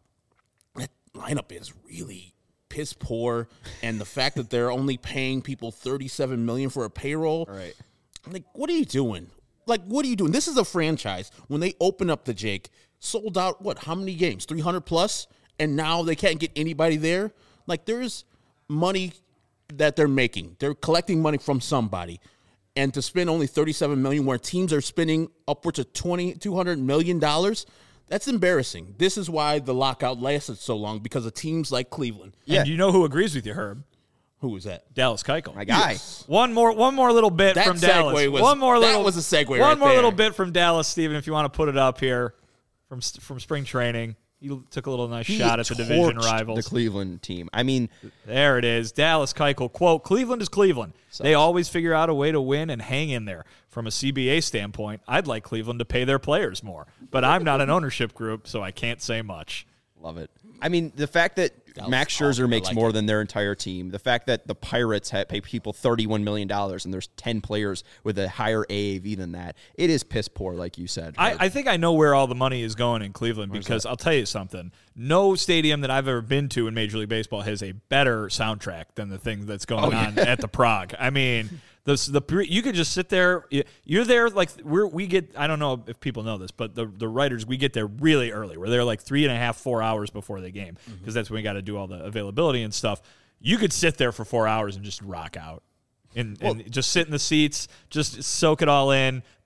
That lineup is really piss poor, and the fact that they're only paying people thirty-seven million dollars for a payroll. Right. Like, what are you doing? Like, what are you doing? This is a franchise. When they open up the Jake, sold out, what, how many games? three hundred plus? And now they can't get anybody there? Like, there's money that they're making. They're collecting money from somebody. And to spend only thirty-seven million dollars where teams are spending upwards of twenty, two hundred million dollars, that's embarrassing. This is why the lockout lasted so long, because of teams like Cleveland. Yeah. And you know who agrees with you, Herb? Who is that? Dallas Keuchel. My guy. One more, one more little bit That from segue Dallas. was- one more that little, was a segue One right more there. little bit from Dallas, Steven, if you want to put it up here from from spring training. You took a little nice He shot at the division torched rivals. the Cleveland team. I mean, There it is. Dallas Keuchel. Quote, Cleveland is Cleveland. They always figure out a way to win and hang in there. From a C B A standpoint, I'd like Cleveland to pay their players more. But I'm not an ownership group, so I can't say much. love it. I mean, the fact that That was Max awesome. Scherzer I makes like more it. than their entire team, the fact that the Pirates ha pay people thirty-one million dollars and there's ten players with a higher A A V than that, it is piss poor, like you said. I, I think I know where all the money is going in Cleveland because I'll tell you something. No stadium that I've ever been to in Major League Baseball has a better soundtrack than the thing that's going on at the Prague. I mean, the the you could just sit there. You're there like we're we get. I don't know if people know this, but the the writers we get there really early. We're there like three and a half, four hours before the game because Mm-hmm. that's when we got to do all the availability and stuff. You could sit there for four hours and just rock out. And, and just sit in the seats, just soak it all in.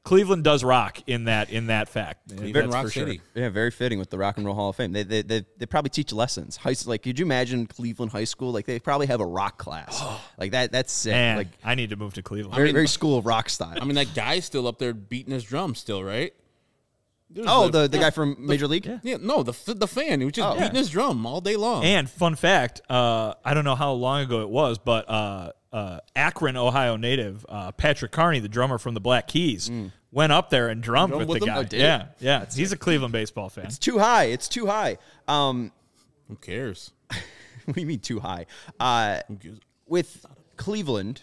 Cleveland does rock in that in that fact. Cleveland That's Rock for sure. City. Yeah, very fitting with the Rock and Roll Hall of Fame. They they they, they probably teach lessons. High, like, could you imagine Cleveland High School? Like, they probably have a rock class. Like that. That's sick. Man, Like I need to move to Cleveland. very very School of Rock style. I mean, that guy's still up there beating his drum still, right? There's oh, the the guy from Major League. yeah. Yeah, no, the f- the fan who was just Oh. beating his drum all day long. And fun fact, uh, I don't know how long ago it was, but uh, uh, Akron, Ohio native uh, Patrick Carney, the drummer from the Black Keys, went up there and drummed Drummed with, with the him? guy. Oh, did yeah, yeah. He's a Cleveland baseball fan. It's too high. It's too high. Um, Who cares? what do you mean too high? Uh, Who cares? with Cleveland,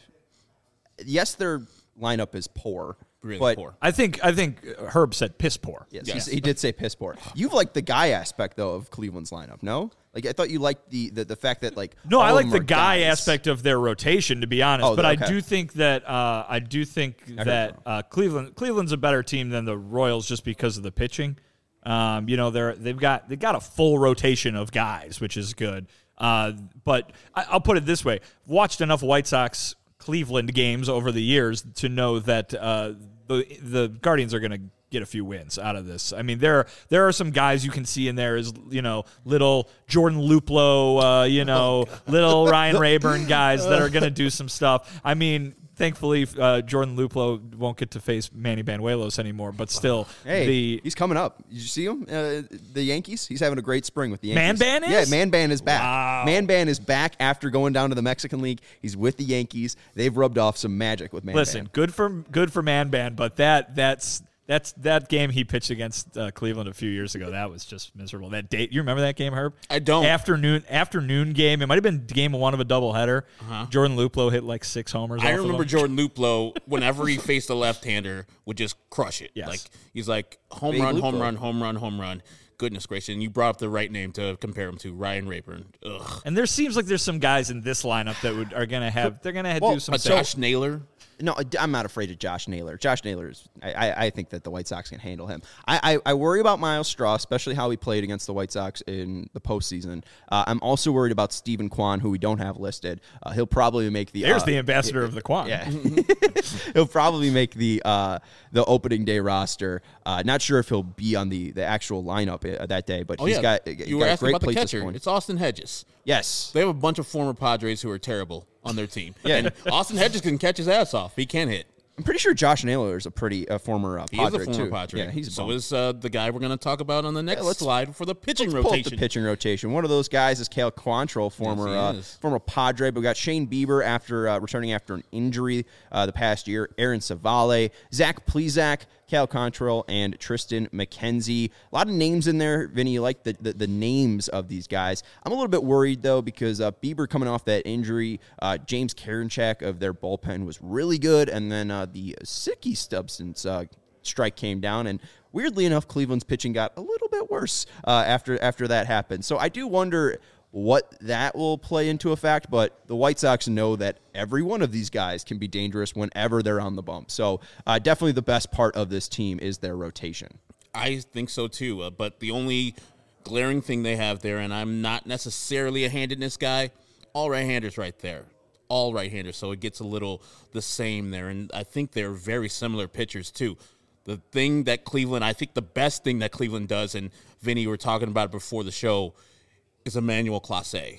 yes, their lineup is poor, Really but poor. I think I think Herb said piss poor. yes, Yes. he's- he did say piss poor. You've liked the guy aspect though of Cleveland's lineup, no? Like I thought you liked the the, the fact that like No, all I of like them the are guy guys. aspect of their rotation, to be honest. Oh, but I okay. do think that uh, I do think that uh, Cleveland Cleveland's a better team than the Royals just because of the pitching. Um, you know, they're they've got they've got a full rotation of guys, which is good. Uh, but I, I'll put it this way: watched enough White Sox Cleveland games over the years to know that uh, the the Guardians are going to get a few wins out of this. I mean, there there are some guys you can see in there as, you know, little Jordan Luplow, uh, you know, little Ryan Rayburn guys that are going to do some stuff. I mean, thankfully, uh, Jordan Luplow won't get to face Manny Banuelos anymore, but still, Hey, the he's coming up. Did you see him? Uh, the Yankees. He's having a great spring with the Man Yankees. Ban is? Yeah, Man Ban is back. Wow. Man Ban is back after going down to the Mexican League. He's with the Yankees. They've rubbed off some magic with Man listen, Ban. good for good for Man Ban, but that that's. That's that game he pitched against uh, Cleveland a few years ago. That was just miserable. That date, you remember that game, Herb? I don't. Afternoon afternoon game. It might have been game one of a doubleheader. Uh-huh. Jordan Luplow hit like six homers. I off remember of him. Jordan Luplow, whenever he faced a left-hander, would just crush it. Yes. Like he's like home Big run, home Luplow. run, home run, home run. Goodness gracious! And you brought up the right name to compare him to, Ryan Rayburn. Ugh. And there seems like there's some guys in this lineup that would are gonna have they're gonna Well, do some But stuff. Josh Naylor. No, I'm not afraid of Josh Naylor. Josh Naylor is. I, I, I think that the White Sox can handle him. I, I, I worry about Miles Straw, especially how he played against the White Sox in the postseason. Uh, I'm also worried about Stephen Kwan, who we don't have listed. Uh, he'll probably make the. There's uh, the ambassador of the Quan. Yeah, he'll probably make the uh, the opening day roster. Uh, not sure if he'll be on the, the actual lineup uh, that day, but Oh he's yeah, got. He's you got were a asking great about the place to catcher. score. It's Austin Hedges. Yes, They have a bunch of former Padres who are terrible on their team. Yeah. And Austin Hedges can catch his ass off. He can hit. I'm pretty sure Josh Naylor is a pretty uh, former uh, He Padre is a former too. Padre. Yeah, he's a so bum. is uh, the guy we're going to talk about on the next let's- slide for the pitching Pull up rotation. the pitching rotation. One of those guys is Cale Quantrill, former he uh, is. former Padre. But we got Shane Bieber after uh, returning after an injury uh, the past year. Aaron Savale, Zach Plezak, Cale Quantrill, and Tristan McKenzie. A lot of names in there. Vinny, you like the, the, the names of these guys. I'm a little bit worried, though, because uh, Bieber coming off that injury, uh, James Karinchak of their bullpen was really good, and then uh, the Sicky substance uh, strike came down, and weirdly enough, Cleveland's pitching got a little bit worse uh, after after that happened. So I do wonder what that will play into effect, but the White Sox know that every one of these guys can be dangerous whenever they're on the bump. So uh, definitely the best part of this team is their rotation. I think so too. Uh, but the only glaring thing they have there, and I'm not necessarily a handedness guy, all right-handers right there. All right-handers. So it gets a little the same there. And I think they're very similar pitchers too. The thing that Cleveland, I think the best thing that Cleveland does, and Vinny, we were talking about it before the show, is Emmanuel Clase.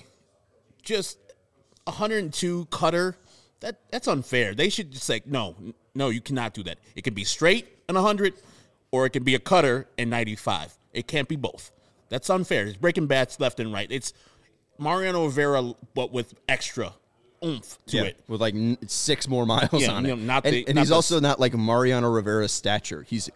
Just one hundred two cutter. That that's unfair. They should just say, no, no, you cannot do that. It can be straight and one hundred, or it can be a cutter and ninety-five. It can't be both. That's unfair. It's breaking bats left and right. It's Mariano Rivera, but with extra oomph to it. with like n- six more miles Yeah, on you it. know, not and the- and not he's the- also not like Mariano Rivera's stature. He's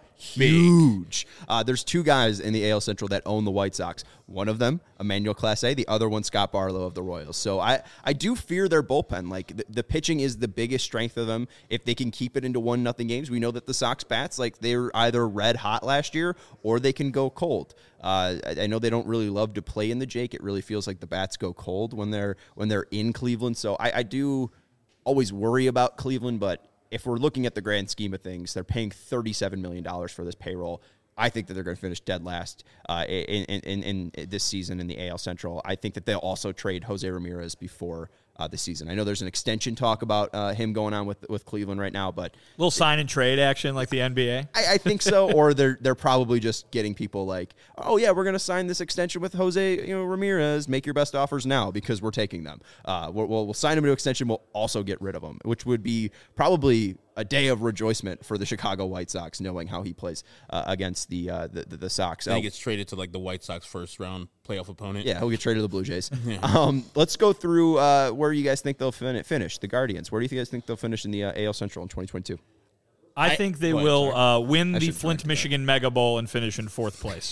huge. Uh, there's two guys in the A L Central that own the White Sox. One of them, Emmanuel Clase, the other one, Scott Barlow of the Royals. So I, I do fear their bullpen. Like the, the pitching is the biggest strength of them. If they can keep it into one nothing games, we know that the Sox bats, like they're either red hot last year or they can go cold. Uh, I, I know they don't really love to play in the Jake. It really feels like the bats go cold when they're when they're in Cleveland. So I, I do always worry about Cleveland, but if we're looking at the grand scheme of things, they're paying thirty-seven million dollars for this payroll. I think that they're going to finish dead last uh, in, in, in, in this season in the A L Central. I think that they'll also trade Jose Ramirez before uh, this season. I know there's an extension talk about uh, him going on with with Cleveland right now, but little sign and trade action like the N B A. I, I think so. Or they're they're probably just getting people like, oh yeah, we're going to sign this extension with Jose, you know, Ramirez. Make your best offers now because we're taking them. Uh, we'll, we'll sign him to extension. We'll also get rid of him, which would be probably a day of rejoicement for the Chicago White Sox, knowing how he plays uh, against the, uh, the the the Sox. And Oh, he gets traded to like the White Sox first round playoff opponent. yeah, he'll get traded to the Blue Jays. um, let's go through uh, where you guys think they'll fin- finish. The Guardians. Where do you guys think they'll finish in the uh, A L Central in twenty twenty-two? I I- think they go ahead, will sorry. uh, win I the should Flint, correct that. Michigan Mega Bowl and finish in fourth place.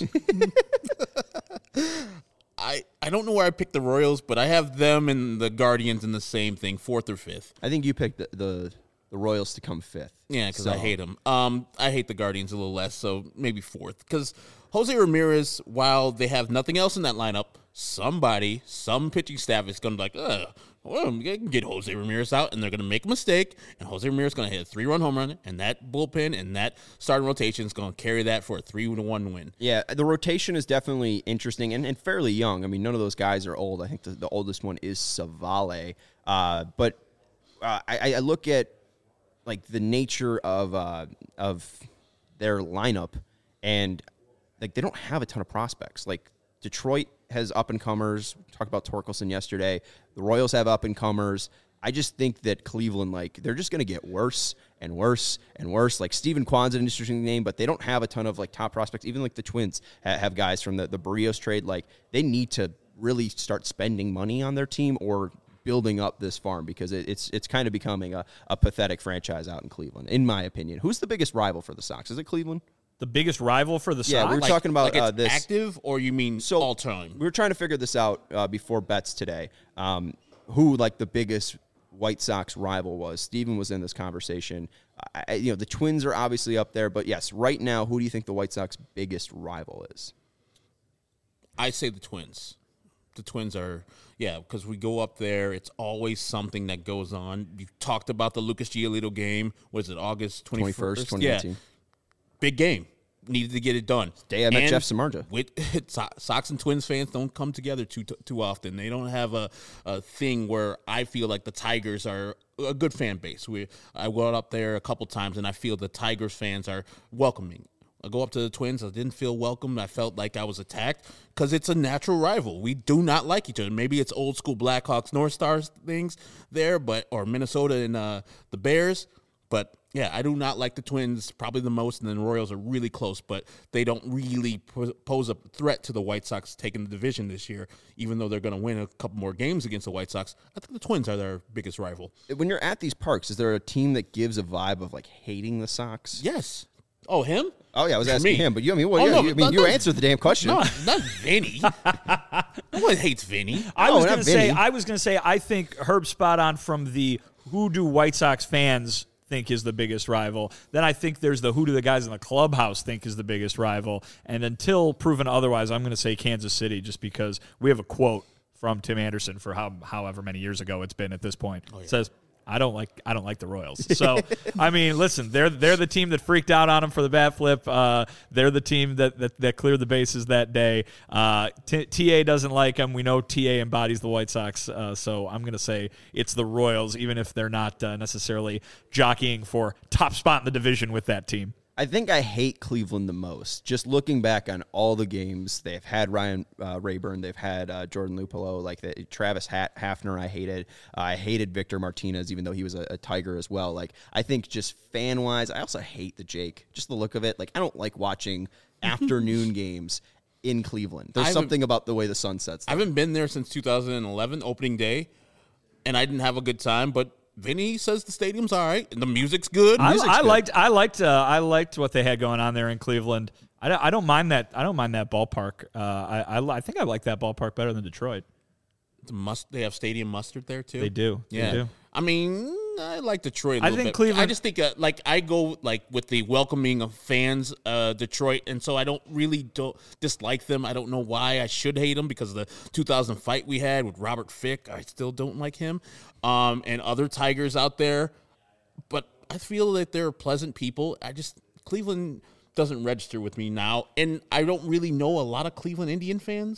I, I don't know where I picked the Royals, but I have them and the Guardians in the same thing, fourth or fifth. I think you picked the the, the Royals to come fifth. Yeah, because So- I hate them. Um, I hate the Guardians a little less, so maybe fourth. Because Jose Ramirez, while they have nothing else in that lineup, somebody, some pitching staff is going to be like, ugh, well, we can get Jose Ramirez out, and they're going to make a mistake, and Jose Ramirez is going to hit a three-run home run, and that bullpen and that starting rotation is going to carry that for a three to one win. Yeah, the rotation is definitely interesting and, and fairly young. I mean, none of those guys are old. I think the, the oldest one is Savale. Uh, but uh, I, I look at like the nature of uh, of their lineup, and like they don't have a ton of prospects. Like Detroit has up and comers. Talked about Torkelson yesterday. The Royals have up and comers. I just think that Cleveland, like, they're just going to get worse and worse and worse. Like, Steven Kwan's an interesting name, but they don't have a ton of, like, top prospects. Even, like, the Twins ha- have guys from the, the Barrios trade. Like, they need to really start spending money on their team or building up this farm because it, it's it's kind of becoming a, a pathetic franchise out in Cleveland, in my opinion. Who's the biggest rival for the Sox? Is it Cleveland? The biggest rival for the Yeah, Sox? we were Like- talking about like it's uh, this. active, or you mean So all time? We were trying to figure this out uh, before bets today. Um, who like the biggest White Sox rival was? Steven was in this conversation. I, you know, the Twins are obviously up there, but yes, right now, who do you think the White Sox biggest rival is? I say the Twins. The Twins are, yeah, because we go up there. It's always something that goes on. You talked about the Lucas Giolito game. Was it August twenty-first? twenty-first, twenty eighteen. Yeah. Big game. Needed to get it done. Day I met And Jeff Samardzija. With So- Sox and Twins fans don't come together too too often. They don't have a, a thing where I feel like the Tigers are a good fan base. We I went up there a couple times, and I feel the Tigers fans are welcoming. I go up to the Twins. I didn't feel welcome. I felt like I was attacked because it's a natural rival. We do not like each other. Maybe it's old school Blackhawks, North Stars things there, but or Minnesota and uh, the Bears. But yeah, I do not like the Twins probably the most, and then the Royals are really close, but they don't really po- pose a threat to the White Sox taking the division this year, even though they're going to win a couple more games against the White Sox. I think the Twins are their biggest rival. When you're at these parks, is there a team that gives a vibe of like hating the Sox? Yes. Oh, him? Oh yeah, I was Me. asking him, but you, I mean, well, Oh, yeah, no, you, I but mean, no, you no. answered the damn question. No, not Vinny. No one hates Vinny. I No, was not going to say, Vinny. I was going to say, I think Herb's spot on from the who do White Sox fans think is the biggest rival. Then I think there's the who do the guys in the clubhouse think is the biggest rival. And until proven otherwise, I'm going to say Kansas City just because we have a quote from Tim Anderson for how however many years ago it's been at this point. It says, I don't like I don't like the Royals. So I mean, listen, they're they're the team that freaked out on him for the bat flip. Uh, they're the team that, that that cleared the bases that day. Uh, T- TA doesn't like him. We know T A embodies the White Sox. Uh, so I'm going to say it's the Royals, even if they're not uh, necessarily jockeying for top spot in the division with that team. I think I hate Cleveland the most. Just looking back on all the games, they've had Ryan uh, Rayburn, they've had uh, Jordan Lupolo, like the, Travis Hat, Hafner. I hated. Uh, I hated Victor Martinez, even though he was a, a Tiger as well. Like I think just fan wise, I also hate the Jake. Just the look of it. Like I don't like watching afternoon games in Cleveland. There's I haven't- something about the way the sun sets. I haven't been there since two thousand eleven, opening day, and I didn't have a good time, but Vinny says the stadium's all right, and the music's good. I, Music's I good. liked I liked uh, I liked what they had going on there in Cleveland. I don't, I don't mind that I don't mind that ballpark. Uh, I, I li- I think I like that ballpark better than Detroit. The must, they have stadium mustard there, too. They do. They Yeah. do. I mean, I like Detroit a I little think bit. Cleveland- I just think, uh, like, I go, like, with the welcoming of fans, uh, Detroit, and so I don't really don't dislike them. I don't know why I should hate them because of the two thousand fight we had with Robert Fick. I still don't like him. Um, and other Tigers out there. But I feel that they're pleasant people. I just, Cleveland doesn't register with me now. And I don't really know a lot of Cleveland Indian fans.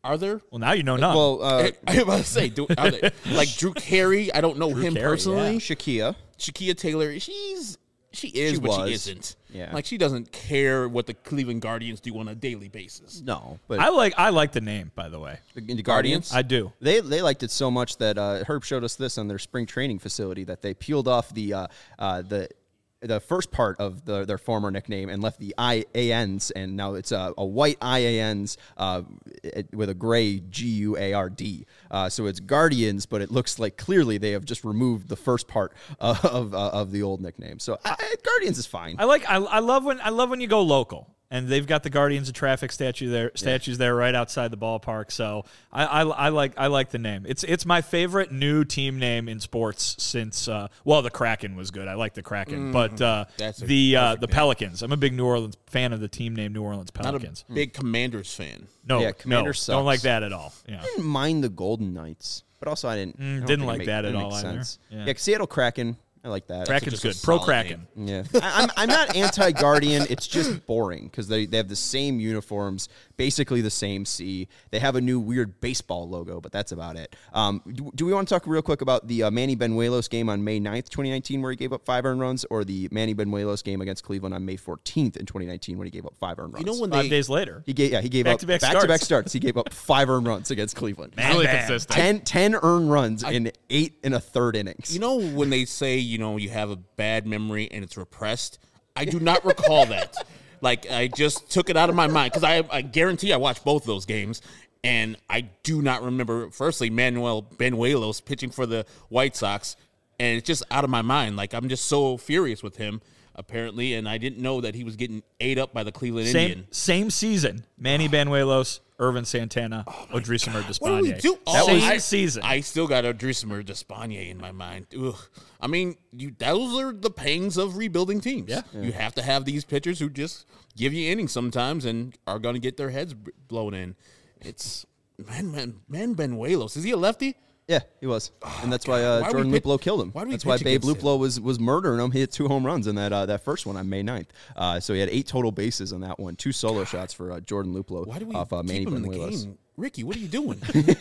Are there? Well, now you know none. Well, uh, I was about to say, do, are they, like Drew Carey. I don't know him Carey, personally. yeah. Shakia. Shakia Taylor, she's she is, She but was. she isn't. Yeah. Like she doesn't care what the Cleveland Guardians do on a daily basis. No, but I like I like the name, by the way. the, the Guardians. I do. They they liked it so much that uh, Herb showed us this on their spring training facility that they peeled off the uh, uh, the the first part of the, their former nickname and left the I A Ns, and now it's a, a white I A Ns uh, it, with a gray G U A R D. Uh, so it's Guardians, but it looks like clearly they have just removed the first part of of, uh, of the old nickname. So I, I, Guardians is fine. I like I, I love when I love when you go local. And they've got the Guardians of Traffic statue there, statues there right outside the ballpark. So I, I, I like I like the name. It's it's my favorite new team name in sports since uh, well the Kraken was good. I like the Kraken, mm, but uh, that's the uh, the Pelicans. I'm a big New Orleans fan of the team name New Orleans Pelicans. Not a big Commanders fan. No, Yeah, no, Commanders sucks. don't like that at all. Yeah. I didn't mind the Golden Knights, but also I didn't. I don't didn't think it like make- that at didn't all make either. sense. Yeah. Yeah, Seattle Kraken. I like that. Kraken's just a good. Pro solid Kraken. Yeah, I, I'm, I'm not anti-Guardian. It's just boring because they, they have the same uniforms, basically the same C. They have a new weird baseball logo, but that's about it. Um, do, do we want to talk real quick about the uh, Manny Benuelos game on May ninth, twenty nineteen, where he gave up five earned runs, or the Manny Benuelos game against Cleveland on May fourteenth in twenty nineteen when he gave up five earned runs? You know when Five they days later. he gave yeah he gave Back-to-back up back-to-back starts. starts. He gave up five earned runs against Cleveland. Man, really man. consistent. ten, ten earned runs in eight and a third innings. You know when they say, you know, you have a bad memory and it's repressed? I do not recall that. Like, I just took it out of my mind because I, I guarantee I watched both those games, and I do not remember, firstly, Manuel Benuelos pitching for the White Sox, and it's just out of my mind. Like, I'm just so furious with him, apparently, and I didn't know that he was getting ate up by the Cleveland Same Indian. same season. Manny Benuelos, Irvin Santana, Odrisamer Despaigne. What do we do? That Oh, was I- the season. I still got Odrisamer Despaigne in my mind. Ugh. I mean, you, those are the pangs of rebuilding teams. Yeah. You have to have these pitchers who just give you innings sometimes and are going to get their heads b- blown in. It's, man, man, man, Benuelos. Is he a lefty? Yeah, he was, and that's why uh, Why do we Jordan pitch- Luplow killed him. why do we That's why pitch Babe against Luplow was was murdering him. He hit two home runs in that uh, that first one on May ninth. Uh, so he had eight total bases on that one, two solo shots for uh, Jordan Luplow Why do we off uh, Manny keep him in the Benuelos. game? Ricky, what are you doing?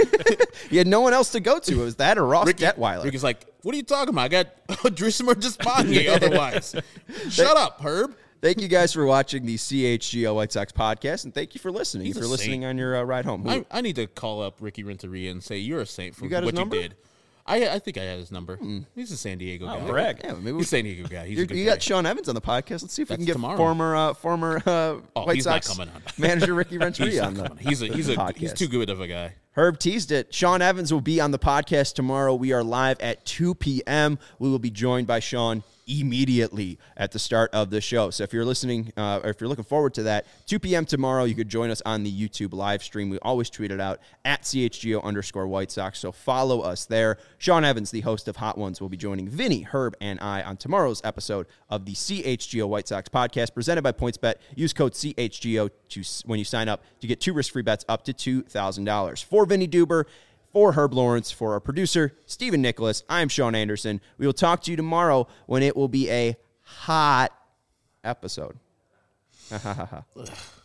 He had no one else to go to. It was that or Ross Ricky, Detweiler. Ricky's like, what are you talking about? I got Odrisamer Despaigne otherwise. Shut up, Herb. Thank you guys for watching the C H G O White Sox podcast, and thank you for listening. He's if a you're listening saint. on your uh, ride home. Who- I, I need to call up Ricky Renteria and say you're a saint for You got his what number? you did. I I think I had his number. He's a San Diego guy. brag. yeah, maybe we, He's a San Diego guy. He's you a good you guy. got Sean Evans on the podcast. Let's see if we That's can get tomorrow. former uh, former uh, Oh, White he's not Sox coming on. manager Ricky He's Renteria not on the coming. He's a he's a podcast. he's too good of a guy. Herb teased it. Sean Evans will be on the podcast tomorrow. We are live at two p.m. We will be joined by Sean immediately at the start of the show. So if you're listening, uh, or if you're looking forward to that, two p.m. tomorrow, you could join us on the YouTube live stream. We always tweet it out at C H G O underscore White Sox. So follow us there. Sean Evans, the host of Hot Ones, will be joining Vinny, Herb, and I on tomorrow's episode of the C H G O White Sox podcast presented by PointsBet. Use code C H G O to, when you sign up to get two risk-free bets up to two thousand dollars. For Vinny Duber, for Herb Lawrence, for our producer, Stephen Nicholas, I'm Sean Anderson. We will talk to you tomorrow when it will be a hot episode. Ha ha ha ha.